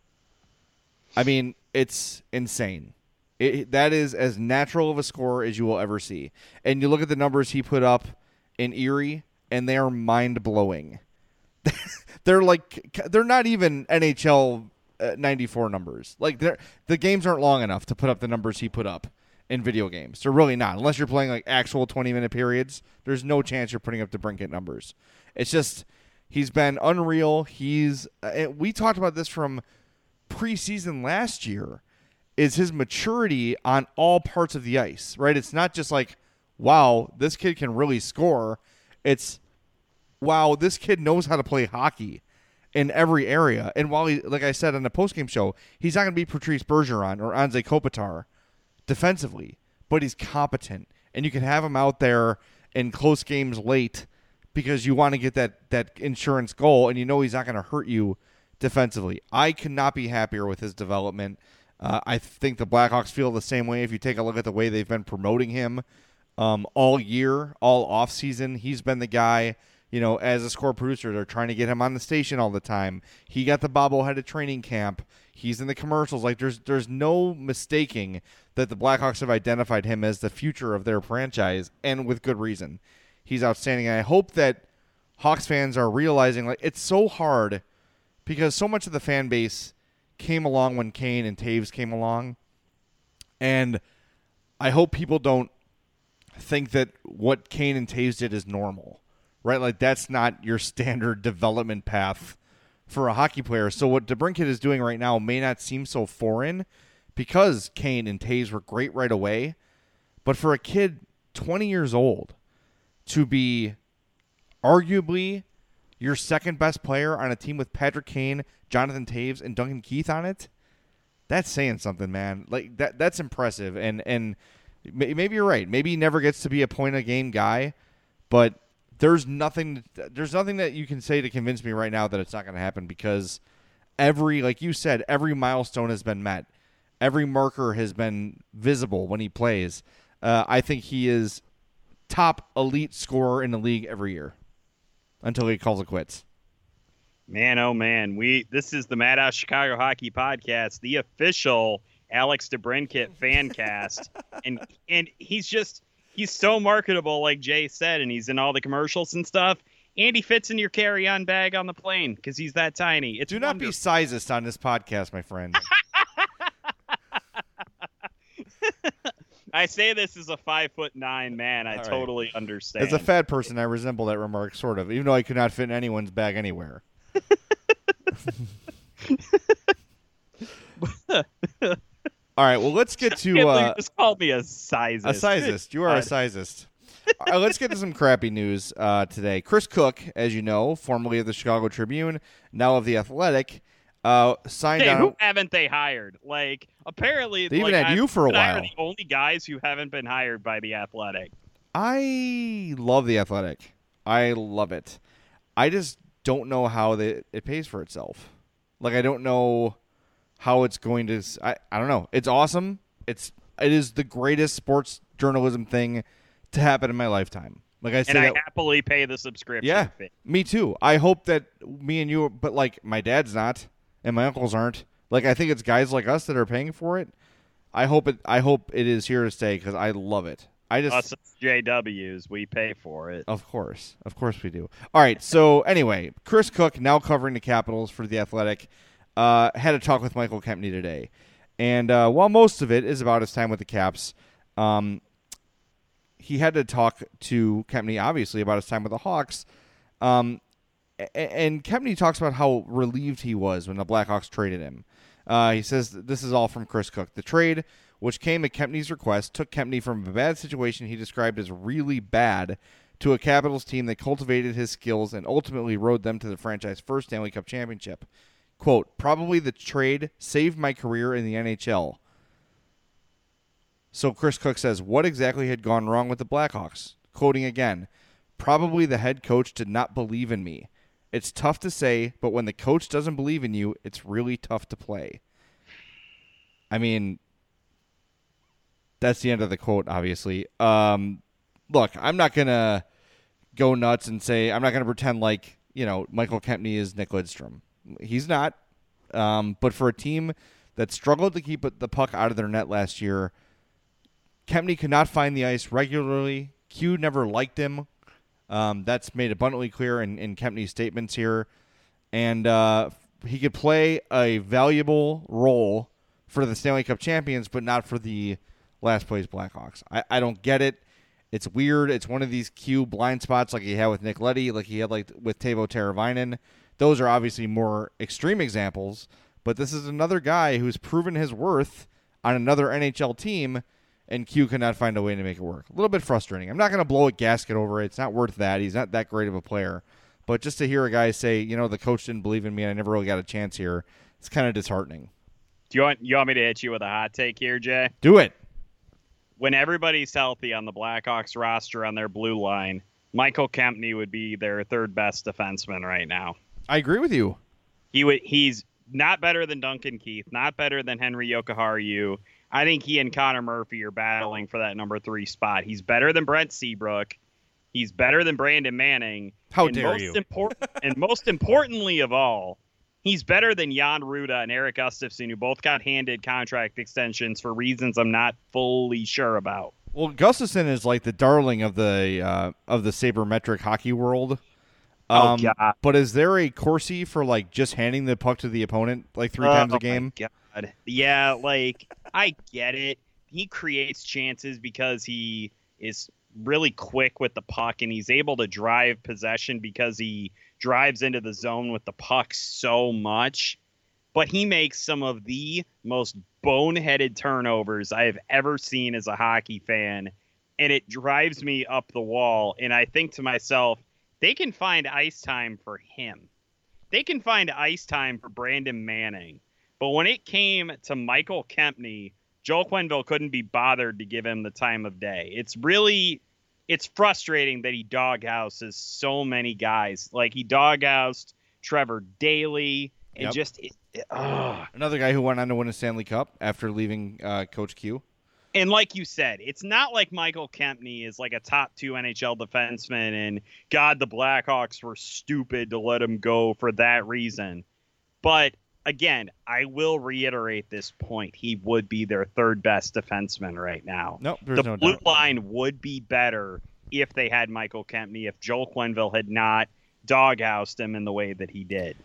I mean, it's insane. It, that is as natural of a score as you will ever see. And you look at the numbers he put up in Erie, and they are mind-blowing. They're like, they're not even N H L ninety-four numbers. Like, the games aren't long enough to put up the numbers he put up in video games. They're really not. Unless you're playing like actual twenty-minute periods, there's no chance you're putting up the DeBrincat numbers. It's just, he's been unreal. He's, uh, we talked about this from preseason last year, is his maturity on all parts of the ice, right? It's not just like, wow, this kid can really score. It's, wow, this kid knows how to play hockey in every area. And while he, like I said on the postgame show, he's not going to be Patrice Bergeron or Anze Kopitar defensively, but he's competent. And you can have him out there in close games late because you want to get that, that insurance goal, and you know he's not going to hurt you defensively. I could not be happier with his development. Uh, I think the Blackhawks feel the same way. If you take a look at the way they've been promoting him um, all year, all offseason, he's been the guy, you know, as a score producer. They're trying to get him on the station all the time. He got the bobblehead at training camp. He's in the commercials. Like, there's there's no mistaking that the Blackhawks have identified him as the future of their franchise, and with good reason. He's outstanding. And I hope that Hawks fans are realizing, like, it's so hard because so much of the fan base came along when Kane and Taves came along. And I hope people don't think that what Kane and Taves did is normal, right? Like, that's not your standard development path for a hockey player. So what DeBrincat is doing right now may not seem so foreign because Kane and Taves were great right away. But for a kid twenty years old to be arguably your second best player on a team with Patrick Kane, Jonathan Taves, and Duncan Keith on it, that's saying something, man. Like, that that's impressive. And and maybe you're right. Maybe he never gets to be a point a game guy, but there's nothing there's nothing that you can say to convince me right now that it's not going to happen, because every, like you said, every milestone has been met. Every marker has been visible when he plays. Uh, I think he is top elite scorer in the league every year until he calls it quits.
Man, oh man, we this is the Madhouse Chicago Hockey Podcast, the official Alex DeBrincat fan cast, and and he's just he's so marketable, like Jay said, and he's in all the commercials and stuff. And he fits in your carry-on bag on the plane because he's that tiny. It's
Do not
wonderful.
be sizist on this podcast, my friend.
I say this as a five foot nine man. I
All right.
totally understand.
As a fat person, I resemble that remark, sort of, even though I could not fit in anyone's bag anywhere. All right, well, let's get to...
You
Uh,
just called me a sizist.
a sizist. You are a sizist. All right, let's get to some crappy news uh, today. Chris Cook, as you know, formerly of the Chicago Tribune, now of The Athletic, uh, signed
hey,
on...
who haven't they hired? Like, apparently...
They even
like,
had
I'm,
you for a
but I
while.
are the only guys who haven't been hired by The Athletic.
I love The Athletic. I love it. I just don't know how they, it pays for itself. Like, I don't know how it's going to... I, I don't know. It's awesome. It's It is the greatest sports journalism thing to happen in my lifetime. Like I said,
and I
that,
happily pay the subscription
yeah,
fee.
me too. I hope that me and you... But, like, my dad's not, and my uncles aren't. Like, I think it's guys like us that are paying for it. I hope it I hope it is here to stay because I love it. I just
Us J Ws, we pay for it.
Of course. Of course we do. All right, so anyway, Chris Cook, now covering the Capitals for The Athletic, uh, had a talk with Michael Kempny today. And uh, while most of it is about his time with the Caps, um, he had to talk to Kempny, obviously, about his time with the Hawks. Um, and Kempny talks about how relieved he was when the Blackhawks traded him. Uh, he says this is all from Chris Cook. The trade, which came at Kempny's request, took Kempny from a bad situation he described as really bad to a Capitals team that cultivated his skills and ultimately rode them to the franchise's first Stanley Cup championship. Quote, probably the trade saved my career in the N H L. So Chris Cook says, what exactly had gone wrong with the Blackhawks? Quoting again, probably the head coach did not believe in me. It's tough to say, but when the coach doesn't believe in you, it's really tough to play. I mean, that's the end of the quote, obviously. Um, look, I'm not going to go nuts and say, I'm not going to pretend like, you know, Michael Kempny is Nick Lidstrom. He's not. Um, but for a team that struggled to keep the puck out of their net last year, Kempny could not find the ice regularly. Q never liked him. Um, that's made abundantly clear in, in Kempny's statements here. And uh, he could play a valuable role for the Stanley Cup champions, but not for the last place Blackhawks. I, I don't get it. It's weird. It's one of these Q blind spots like he had with Nick Leddy, like he had like with Teuvo Teravainen. Those are obviously more extreme examples, but this is another guy who's proven his worth on another N H L team, and Q cannot find a way to make it work. A little bit frustrating. I'm not going to blow a gasket over it. It's not worth that. He's not that great of a player. But just to hear a guy say, you know, the coach didn't believe in me and I never really got a chance here, it's kind of disheartening.
Do you want you want me to hit you with a hot take here, Jay?
Do it.
When everybody's healthy on the Blackhawks roster on their blue line, Michael Kempny would be their third best defenseman right now.
I agree with you.
He would. He's not better than Duncan Keith, not better than Henry Jokiharju. I think he and Connor Murphy are battling for that number three spot. He's better than Brent Seabrook. He's better than Brandon Manning.
How
and
dare
most
you?
Impor- and most importantly of all, he's better than Jan Ruda and Eric Gustafsson, who both got handed contract extensions for reasons I'm not fully sure about.
Well, Gustafsson is like the darling of the uh, of the sabermetric hockey world. Um,
oh, God.
But is there a Corsi for like just handing the puck to the opponent like three
oh,
times a game?
My God. Yeah, like I get it. He creates chances because he is really quick with the puck, and he's able to drive possession because he drives into the zone with the puck so much. But he makes some of the most boneheaded turnovers I have ever seen as a hockey fan, and it drives me up the wall. And I think to myself, they can find ice time for him. They can find ice time for Brandon Manning. But when it came to Michael Kempny, Joel Quenneville couldn't be bothered to give him the time of day. It's really, it's frustrating that he doghouses so many guys. Like he doghoused Trevor Daley and
Yep.
just, it, it, ugh.
Another guy who went on to win a Stanley Cup after leaving uh, Coach Q.
And like you said, it's not like Michael Kempny is like a top two N H L defenseman and God, the Blackhawks were stupid to let him go for that reason. But again, I will reiterate this point. He would be their third best defenseman right now.
No, there's
the
no
blue
doubt.
line would be better if they had Michael Kempny, if Joel Quenneville had not doghoused him in the way that he did.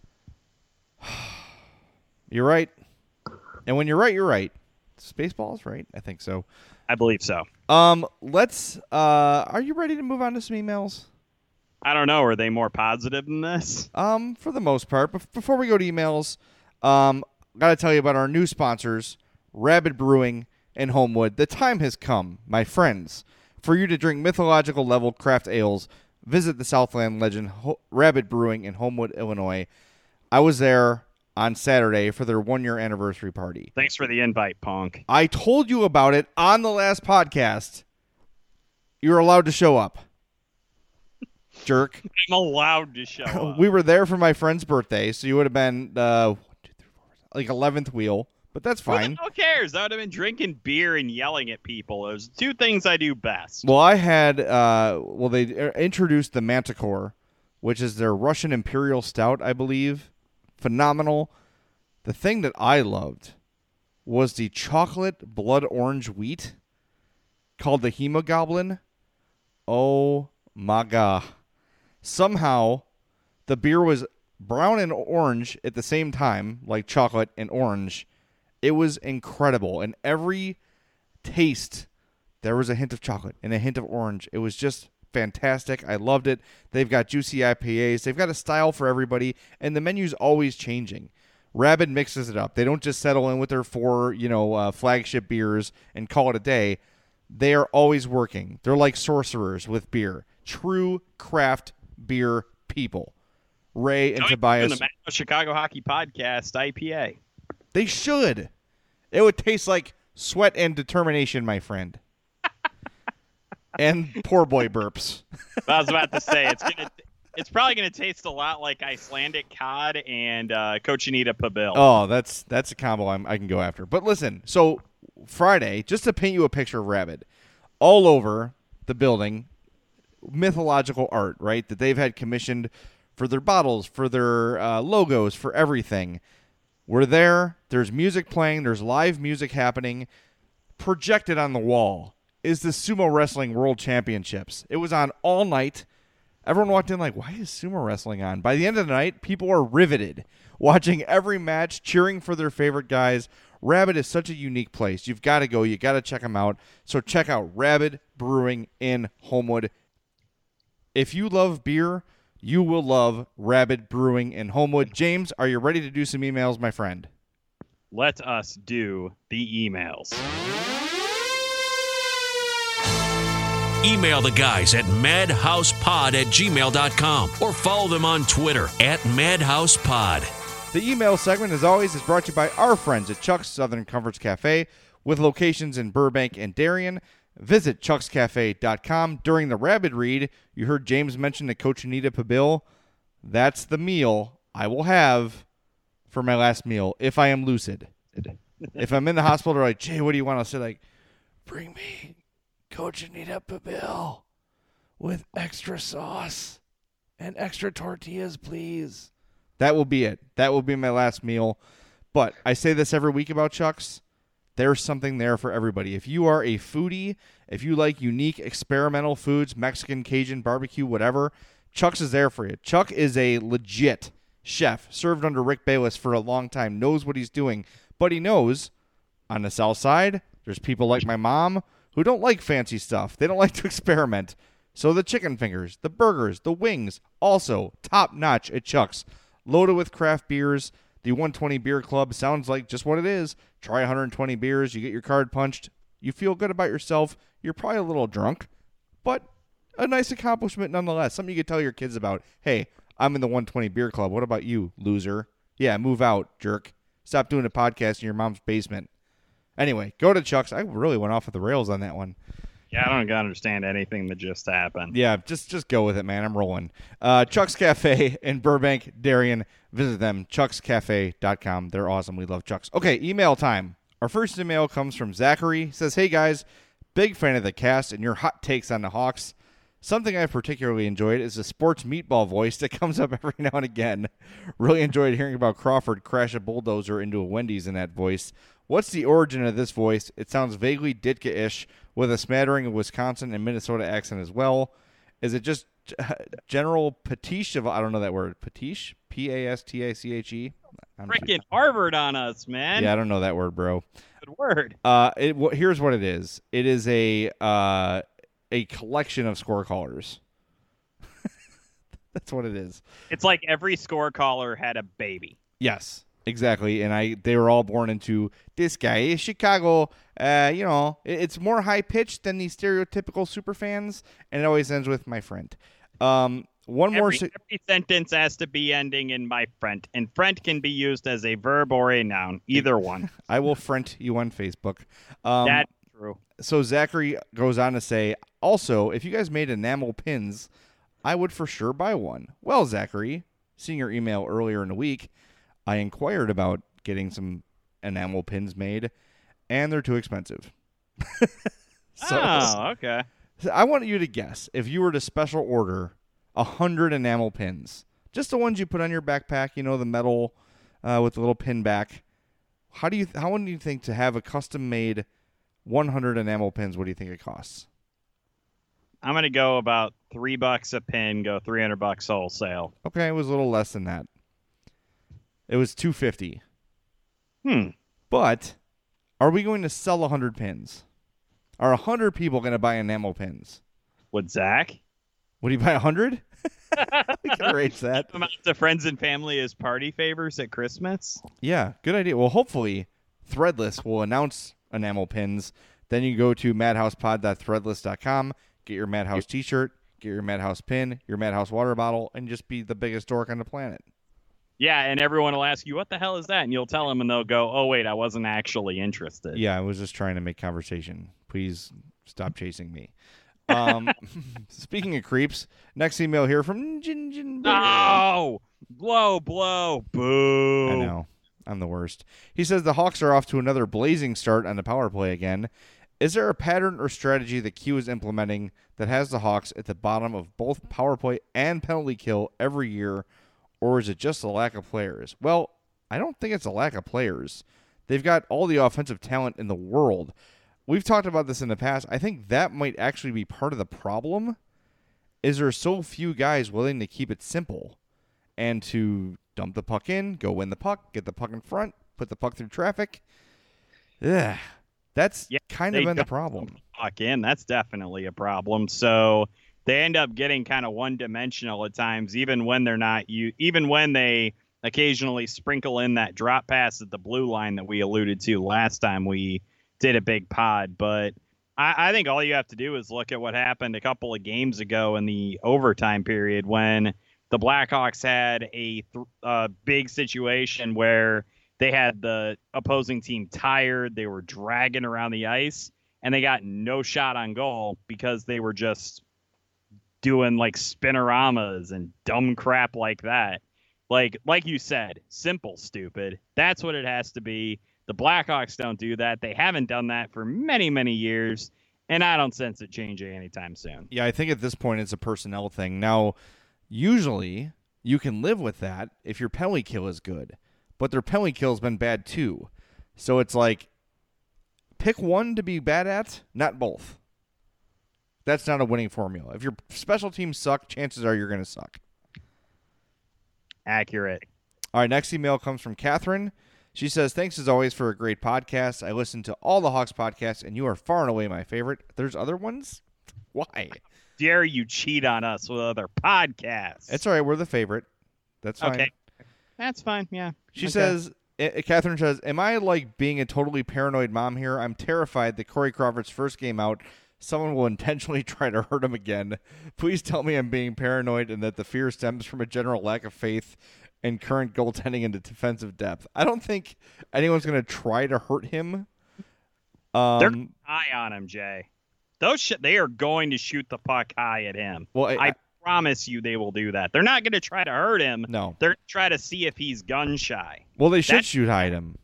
You're right. And when you're right, you're right. Spaceballs, right? I think so.
I believe so.
Um, let's. Uh, are you ready to move on to some emails?
I don't know. Are they more positive than this?
Um, for the most part. But before we go to emails, um, gotta tell you about our new sponsors, Rabid Brewing and Homewood. The time has come, my friends, for you to drink mythological level craft ales. Visit the Southland legend Ho- Rabid Brewing in Homewood, Illinois. I was there on Saturday for their one-year anniversary party.
Thanks for the invite, Punk.
I told you about it on the last podcast. You're allowed to show up. Jerk.
I'm allowed to show up.
We were there for my friend's birthday, so you would have been uh, one, two, three, four, like eleventh wheel, but that's fine.
Who cares? I would have been drinking beer and yelling at people. Those are two things I do best.
Well, I had, uh, well, they introduced the Manticore, which is their Russian Imperial Stout, I believe. Phenomenal. The thing that I loved was the chocolate blood orange wheat called the Hemogoblin. Oh my God. Somehow the beer was brown and orange at the same time, like chocolate and orange. It was incredible. And every taste, there was a hint of chocolate and a hint of orange. It was just fantastic. I loved it. They've got juicy I P As. They've got a style for everybody, and the menu's always changing. Rabid mixes it up. They don't just settle in with their four, you know, uh, flagship beers and call it a day. They are always working. They're like sorcerers with beer. True craft beer people. Ray and
Don't
Tobias.
even the Chicago Hockey Podcast I P A.
They should. It would taste like sweat and determination, my friend. And poor boy burps.
I was about to say it's gonna. It's probably going to taste a lot like Icelandic cod and uh, Cochinita Pibil.
Oh, that's that's a combo I'm, I can go after. But listen, so Friday, just to paint you a picture of Rabbit, all over the building, mythological art, right, that they've had commissioned for their bottles, for their uh, logos, for everything. We're there. There's music playing. There's live music happening. Projected on the wall is the Sumo Wrestling World Championships. It was on all night. Everyone walked in like, why is sumo wrestling on? By the end of the night, people are riveted, watching every match, cheering for their favorite guys. Rabbit is such a unique place. You've got to go. You got to check them out. So check out Rabbit Brewing in Homewood. If you love beer, you will love Rabbit Brewing in Homewood. James, are you ready to do some emails, my friend?
Let us do the emails.
Email the guys at madhousepod at gmail dot com or follow them on Twitter at madhousepod.
The email segment, as always, is brought to you by our friends at Chuck's Southern Comforts Cafe with locations in Burbank and Darien. Visit chucks cafe dot com. During the Rabbit read, you heard James mention the Cochinita Pibil. That's the meal I will have for my last meal if I am lucid. If I'm in the hospital, they're like, Jay, what do you want? I'll say, like, bring me Cochinita Pibil with extra sauce and extra tortillas, please. That will be it. That will be my last meal. But I say this every week about Chuck's. There's something there for everybody. If you are a foodie, if you like unique experimental foods, Mexican, Cajun, barbecue, whatever, Chuck's is there for you. Chuck is a legit chef, served under Rick Bayless for a long time, knows what he's doing. But he knows on the south side, there's people like my mom who don't like fancy stuff. They don't like to experiment. So the chicken fingers, the burgers, the wings, also top-notch at Chuck's. Loaded with craft beers. The one twenty Beer Club sounds like just what it is. Try one hundred twenty beers. You get your card punched. You feel good about yourself. You're probably a little drunk, but a nice accomplishment nonetheless. Something you could tell your kids about. Hey, I'm in the one twenty Beer Club. What about you, loser? Yeah, move out, jerk. Stop doing a podcast in your mom's basement. Anyway, go to Chuck's. I really went off of the rails on that one.
Yeah, I don't understand anything that just happened.
Yeah, just just go with it, man. I'm rolling. Uh, Chuck's Cafe in Burbank, Darien. Visit them, chucks cafe dot com. They're awesome. We love Chuck's. Okay, email time. Our first email comes from Zachary. He says, hey, guys, big fan of the cast and your hot takes on the Hawks. Something I've particularly enjoyed is the sports meatball voice that comes up every now and again. Really enjoyed hearing about Crawford crash a bulldozer into a Wendy's in that voice. What's the origin of this voice? It sounds vaguely Ditka-ish with a smattering of Wisconsin and Minnesota accent as well. Is it just general pastiche of, I don't know that word, pastiche? P A S T A C H E?
Freaking Harvard on us, man.
Yeah, I don't know that word, bro.
Good word.
Uh, it, well, here's what it is. It is a uh, a collection of score callers. That's what it is.
It's like every score caller had a baby.
Yes. Exactly, and I they were all born into this guy is Chicago. Uh, you know, it, it's more high pitched than the stereotypical super fans, and it always ends with my friend. Um, one
every,
more. Se-
every sentence has to be ending in my friend, and friend can be used as a verb or a noun, either one.
I will friend you on Facebook. Um,
That's true.
So Zachary goes on to say, also, if you guys made enamel pins, I would for sure buy one. Well, Zachary, seeing your email earlier in the week, I inquired about getting some enamel pins made, and they're too expensive.
so, oh, okay.
I want you to guess, if you were to special order one hundred enamel pins, just the ones you put on your backpack, you know, the metal uh, with the little pin back, how do you how would you think to have a custom-made one hundred enamel pins, what do you think it costs?
I'm going to go about three bucks a pin, go three hundred bucks wholesale.
Okay, it was a little less than that. It was two hundred fifty
dollars. Hmm.
But are we going to sell one hundred pins? Are one hundred people going to buy enamel pins?
Would Zach?
Would he buy one hundred? We can arrange that.
To friends and family as party favors at Christmas?
Yeah, good idea. Well, hopefully Threadless will announce enamel pins. Then you go to madhousepod dot threadless dot com, get your Madhouse t-shirt, get your Madhouse pin, your Madhouse water bottle, and just be the biggest dork on the planet.
Yeah, and everyone will ask you, what the hell is that? And you'll tell them, and they'll go, oh, wait, I wasn't actually interested.
Yeah, I was just trying to make conversation. Please stop chasing me. Um, speaking of creeps, next email here from Jin Jin.
Oh, blow, blow, boo.
I know. I'm the worst. He says the Hawks are off to another blazing start on the power play again. Is there a pattern or strategy that Q is implementing that has the Hawks at the bottom of both power play and penalty kill every year, or is it just a lack of players? Well, I don't think it's a lack of players. They've got all the offensive talent in the world. We've talked about this in the past. I think that might actually be part of the problem, is there are so few guys willing to keep it simple and to dump the puck in, go win the puck, get the puck in front, put the puck through traffic. Yeah. That's yeah, kind of been the problem.
Puck in, that's definitely a problem. So they end up getting kind of one-dimensional at times, even when they're not. You even when they occasionally sprinkle in that drop pass at the blue line that we alluded to last time we did a big pod. But I, I think all you have to do is look at what happened a couple of games ago in the overtime period when the Blackhawks had a th- uh, big situation where they had the opposing team tired. They were dragging around the ice, and they got no shot on goal because they were just doing like spinoramas and dumb crap like that. Like, like you said, simple, stupid. That's what it has to be. The Blackhawks don't do that. They haven't done that for many, many years, and I don't sense it changing anytime soon.
Yeah, I think at this point it's a personnel thing. Now, usually you can live with that if your penalty kill is good. But their penalty kill has been bad too. So it's like, pick one to be bad at, not both. That's not a winning formula. If your special teams suck, chances are you're going to suck.
Accurate.
All right, next email comes from Catherine. She says, thanks as always for a great podcast. I listen to all the Hawks podcasts, and you are far and away my favorite. There's other ones? Why?
Dare you cheat on us with other podcasts?
It's all right. We're the favorite. That's fine.
Okay. That's fine, yeah.
She
okay.
says, uh, Catherine says, am I like being a totally paranoid mom here? I'm terrified that Corey Crawford's first game out, someone will intentionally try to hurt him again. Please tell me I'm being paranoid and that the fear stems from a general lack of faith in current goaltending and defensive depth. I don't think anyone's going to try to hurt him. Um,
They're high on him, Jay. Those sh- They are going to shoot the puck high at him.
Well, I,
I promise you they will do that. They're not going to try to hurt him.
No.
They're going to try to see if he's gun shy.
Well, they should
That's-
shoot high at him.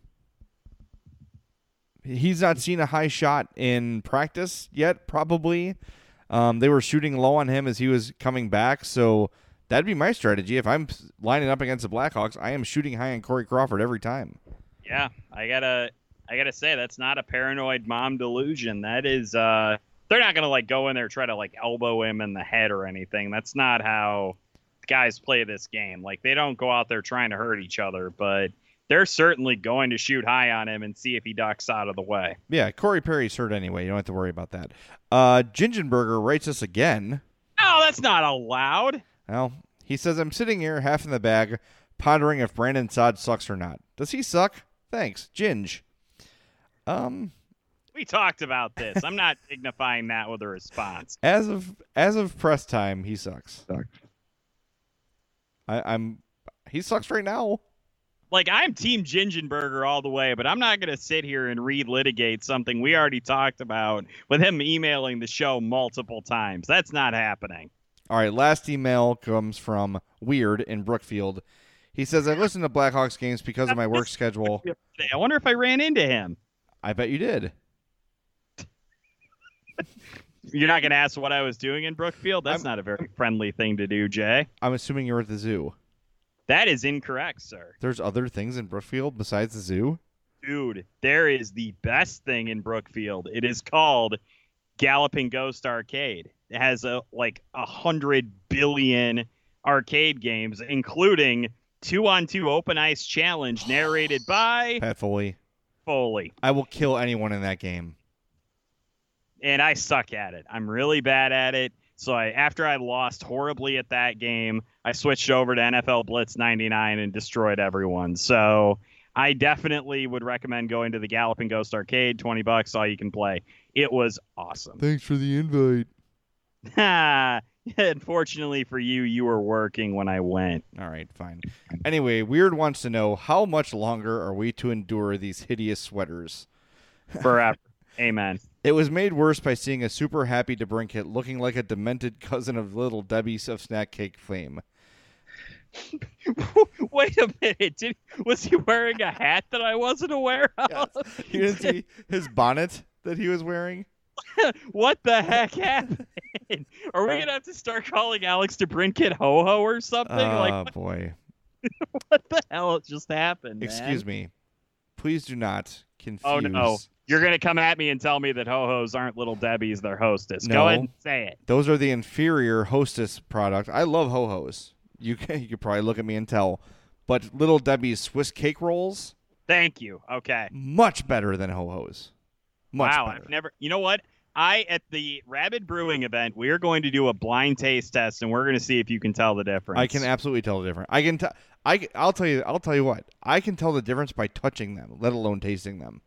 He's not seen a high shot in practice yet, probably. Um, they were shooting low on him as he was coming back, so that'd be my strategy. If I'm lining up against the Blackhawks, I am shooting high on Corey Crawford every time.
Yeah, I gotta, I gotta say that's not a paranoid mom delusion. That is, uh, they're not gonna like go in there and try to like elbow him in the head or anything. That's not how guys play this game. Like they don't go out there trying to hurt each other, but they're certainly going to shoot high on him and see if he ducks out of the way.
Yeah, Corey Perry's hurt anyway. You don't have to worry about that. Uh, Gingenberger writes us again.
Oh, that's not allowed.
Well, he says, I'm sitting here half in the bag, pondering if Brandon Saad sucks or not. Does he suck? Thanks, Ginge. Um,
we talked about this. I'm not dignifying that with a response.
As of as of press time, he sucks. I, I'm he sucks right now.
Like, I'm Team Gingenberger all the way, but I'm not going to sit here and relitigate something we already talked about with him emailing the show multiple times. That's not happening.
All right, last email comes from Weird in Brookfield. He says, I listen to Blackhawks games because of my work schedule.
I wonder if I ran into him.
I bet you did.
You're not going to ask what I was doing in Brookfield? That's I'm, not a very friendly thing to do, Jay.
I'm assuming you were at the zoo.
That is incorrect, sir.
There's other things in Brookfield besides the zoo?
Dude, there is the best thing in Brookfield. It is called Galloping Ghost Arcade. It has a, like a hundred billion arcade games, including two-on-two open ice challenge narrated by
Pat Foley.
Foley.
I will kill anyone in that game.
And I suck at it. I'm really bad at it. So I, after I lost horribly at that game, I switched over to N F L Blitz ninety-nine and destroyed everyone. So I definitely would recommend going to the Galloping Ghost Arcade. twenty bucks, all you can play. It was awesome.
Thanks for the invite.
Unfortunately for you, you were working when I went.
All right, fine. Anyway, Weird wants to know, how much longer are we to endure these hideous sweaters?
Forever. Amen.
It was made worse by seeing a super happy DeBrincat looking like a demented cousin of little Debbie of Snack Cake fame.
Wait a minute. Did, was he wearing a hat that I wasn't aware of?
Yes. You didn't see his bonnet that he was wearing?
What the heck happened? Are we going to have to start calling Alex DeBrincat Ho-Ho or something?
Oh,
like, what,
boy.
What the hell just happened,
Excuse
man?
me. Please do not confuse.
Oh, no. You're going to come at me and tell me that Ho-Hos aren't Little Debbie's, they're Hostess.
No,
Go ahead and say it.
Those are the inferior Hostess product. I love Ho-Hos. You can, you could probably look at me and tell. But Little Debbie's Swiss cake rolls?
Thank you. Okay.
Much better than Ho-Hos. Much
wow,
better.
I've never. You know what? I at the Rabid Brewing event, we are going to do a blind taste test, and we're going to see if you can tell the difference.
I can absolutely tell the difference. I can. T- I. I'll tell you. I'll tell you what. I can tell the difference by touching them, let alone tasting them.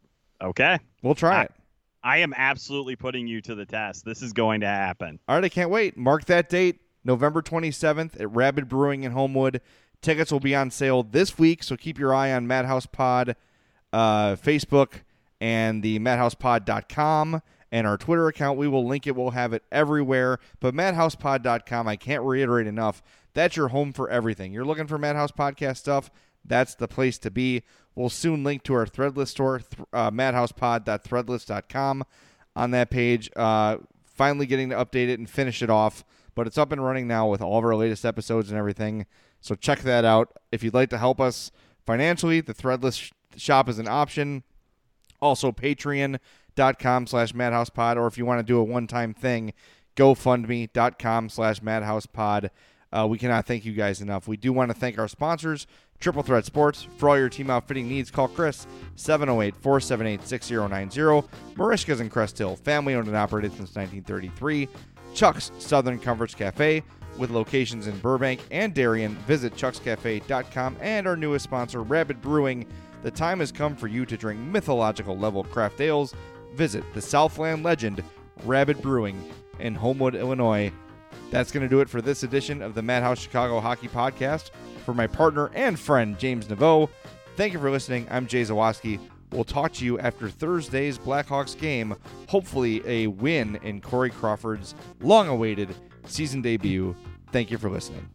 Okay.
We'll try
I,
it.
I am absolutely putting you to the test. This is going to happen.
All right. I can't wait. Mark that date, November twenty-seventh at Rabid Brewing in Homewood. Tickets will be on sale this week, so keep your eye on Madhouse Pod, uh, Facebook, and the madhouse pod dot com. And our Twitter account, we will link it. We'll have it everywhere. But madhouse pod dot com, I can't reiterate enough, that's your home for everything. You're looking for Madhouse Podcast stuff, that's the place to be. We'll soon link to our Threadless store, th- uh, madhouse pod dot threadless dot com. On that page, uh, finally getting to update it and finish it off. But it's up and running now with all of our latest episodes and everything. So check that out. If you'd like to help us financially, the Threadless sh- shop is an option. Also, Patreon. dot com slash madhousepod, or if you want to do a one-time thing, gofundme dot com slash madhousepod. Uh, we cannot thank you guys enough. We do want to thank our sponsors, Triple Threat Sports. For all your team outfitting needs, call Chris, seven oh eight, four seven eight, six oh nine oh. Marishka's in Crest Hill, family-owned and operated since nineteen thirty-three. Chuck's Southern Comforts Cafe, with locations in Burbank and Darien. Visit chucks cafe dot com. And our newest sponsor, Rabid Brewing. The time has come for you to drink mythological level craft ales. Visit the Southland legend, Rabid Brewing, in Homewood, Illinois. That's going to do it for this edition of the Madhouse Chicago Hockey Podcast. For my partner and friend, James Naveau, thank you for listening. I'm Jay Zawaski. We'll talk to you after Thursday's Blackhawks game. Hopefully a win in Corey Crawford's long-awaited season debut. Thank you for listening.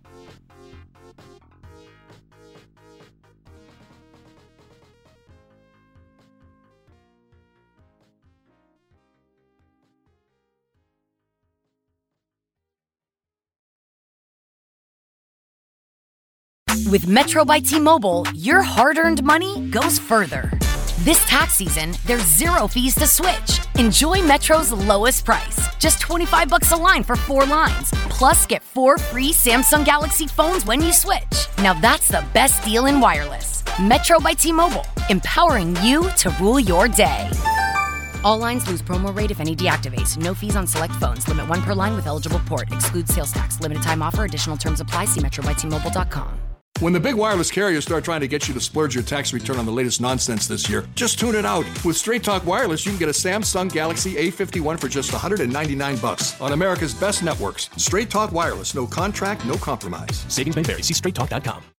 With Metro by T-Mobile, your hard-earned money goes further. This tax season, there's zero fees to switch. Enjoy Metro's lowest price, just twenty-five bucks a line for four lines. Plus, get four free Samsung Galaxy phones when you switch. Now that's the best deal in wireless. Metro by T-Mobile, empowering you to rule your day. All lines lose promo rate if any deactivates. No fees on select phones. Limit one per line with eligible port. Excludes sales tax. Limited time offer. Additional terms apply. See metro by t mobile dot com.
When the big wireless carriers start trying to get you to splurge your tax return on the latest nonsense this year, just tune it out. With Straight Talk Wireless, you can get a Samsung Galaxy A fifty-one for just one hundred ninety-nine bucks on America's best networks. Straight Talk Wireless. No contract, no compromise.
Savings may vary. See straight talk dot com.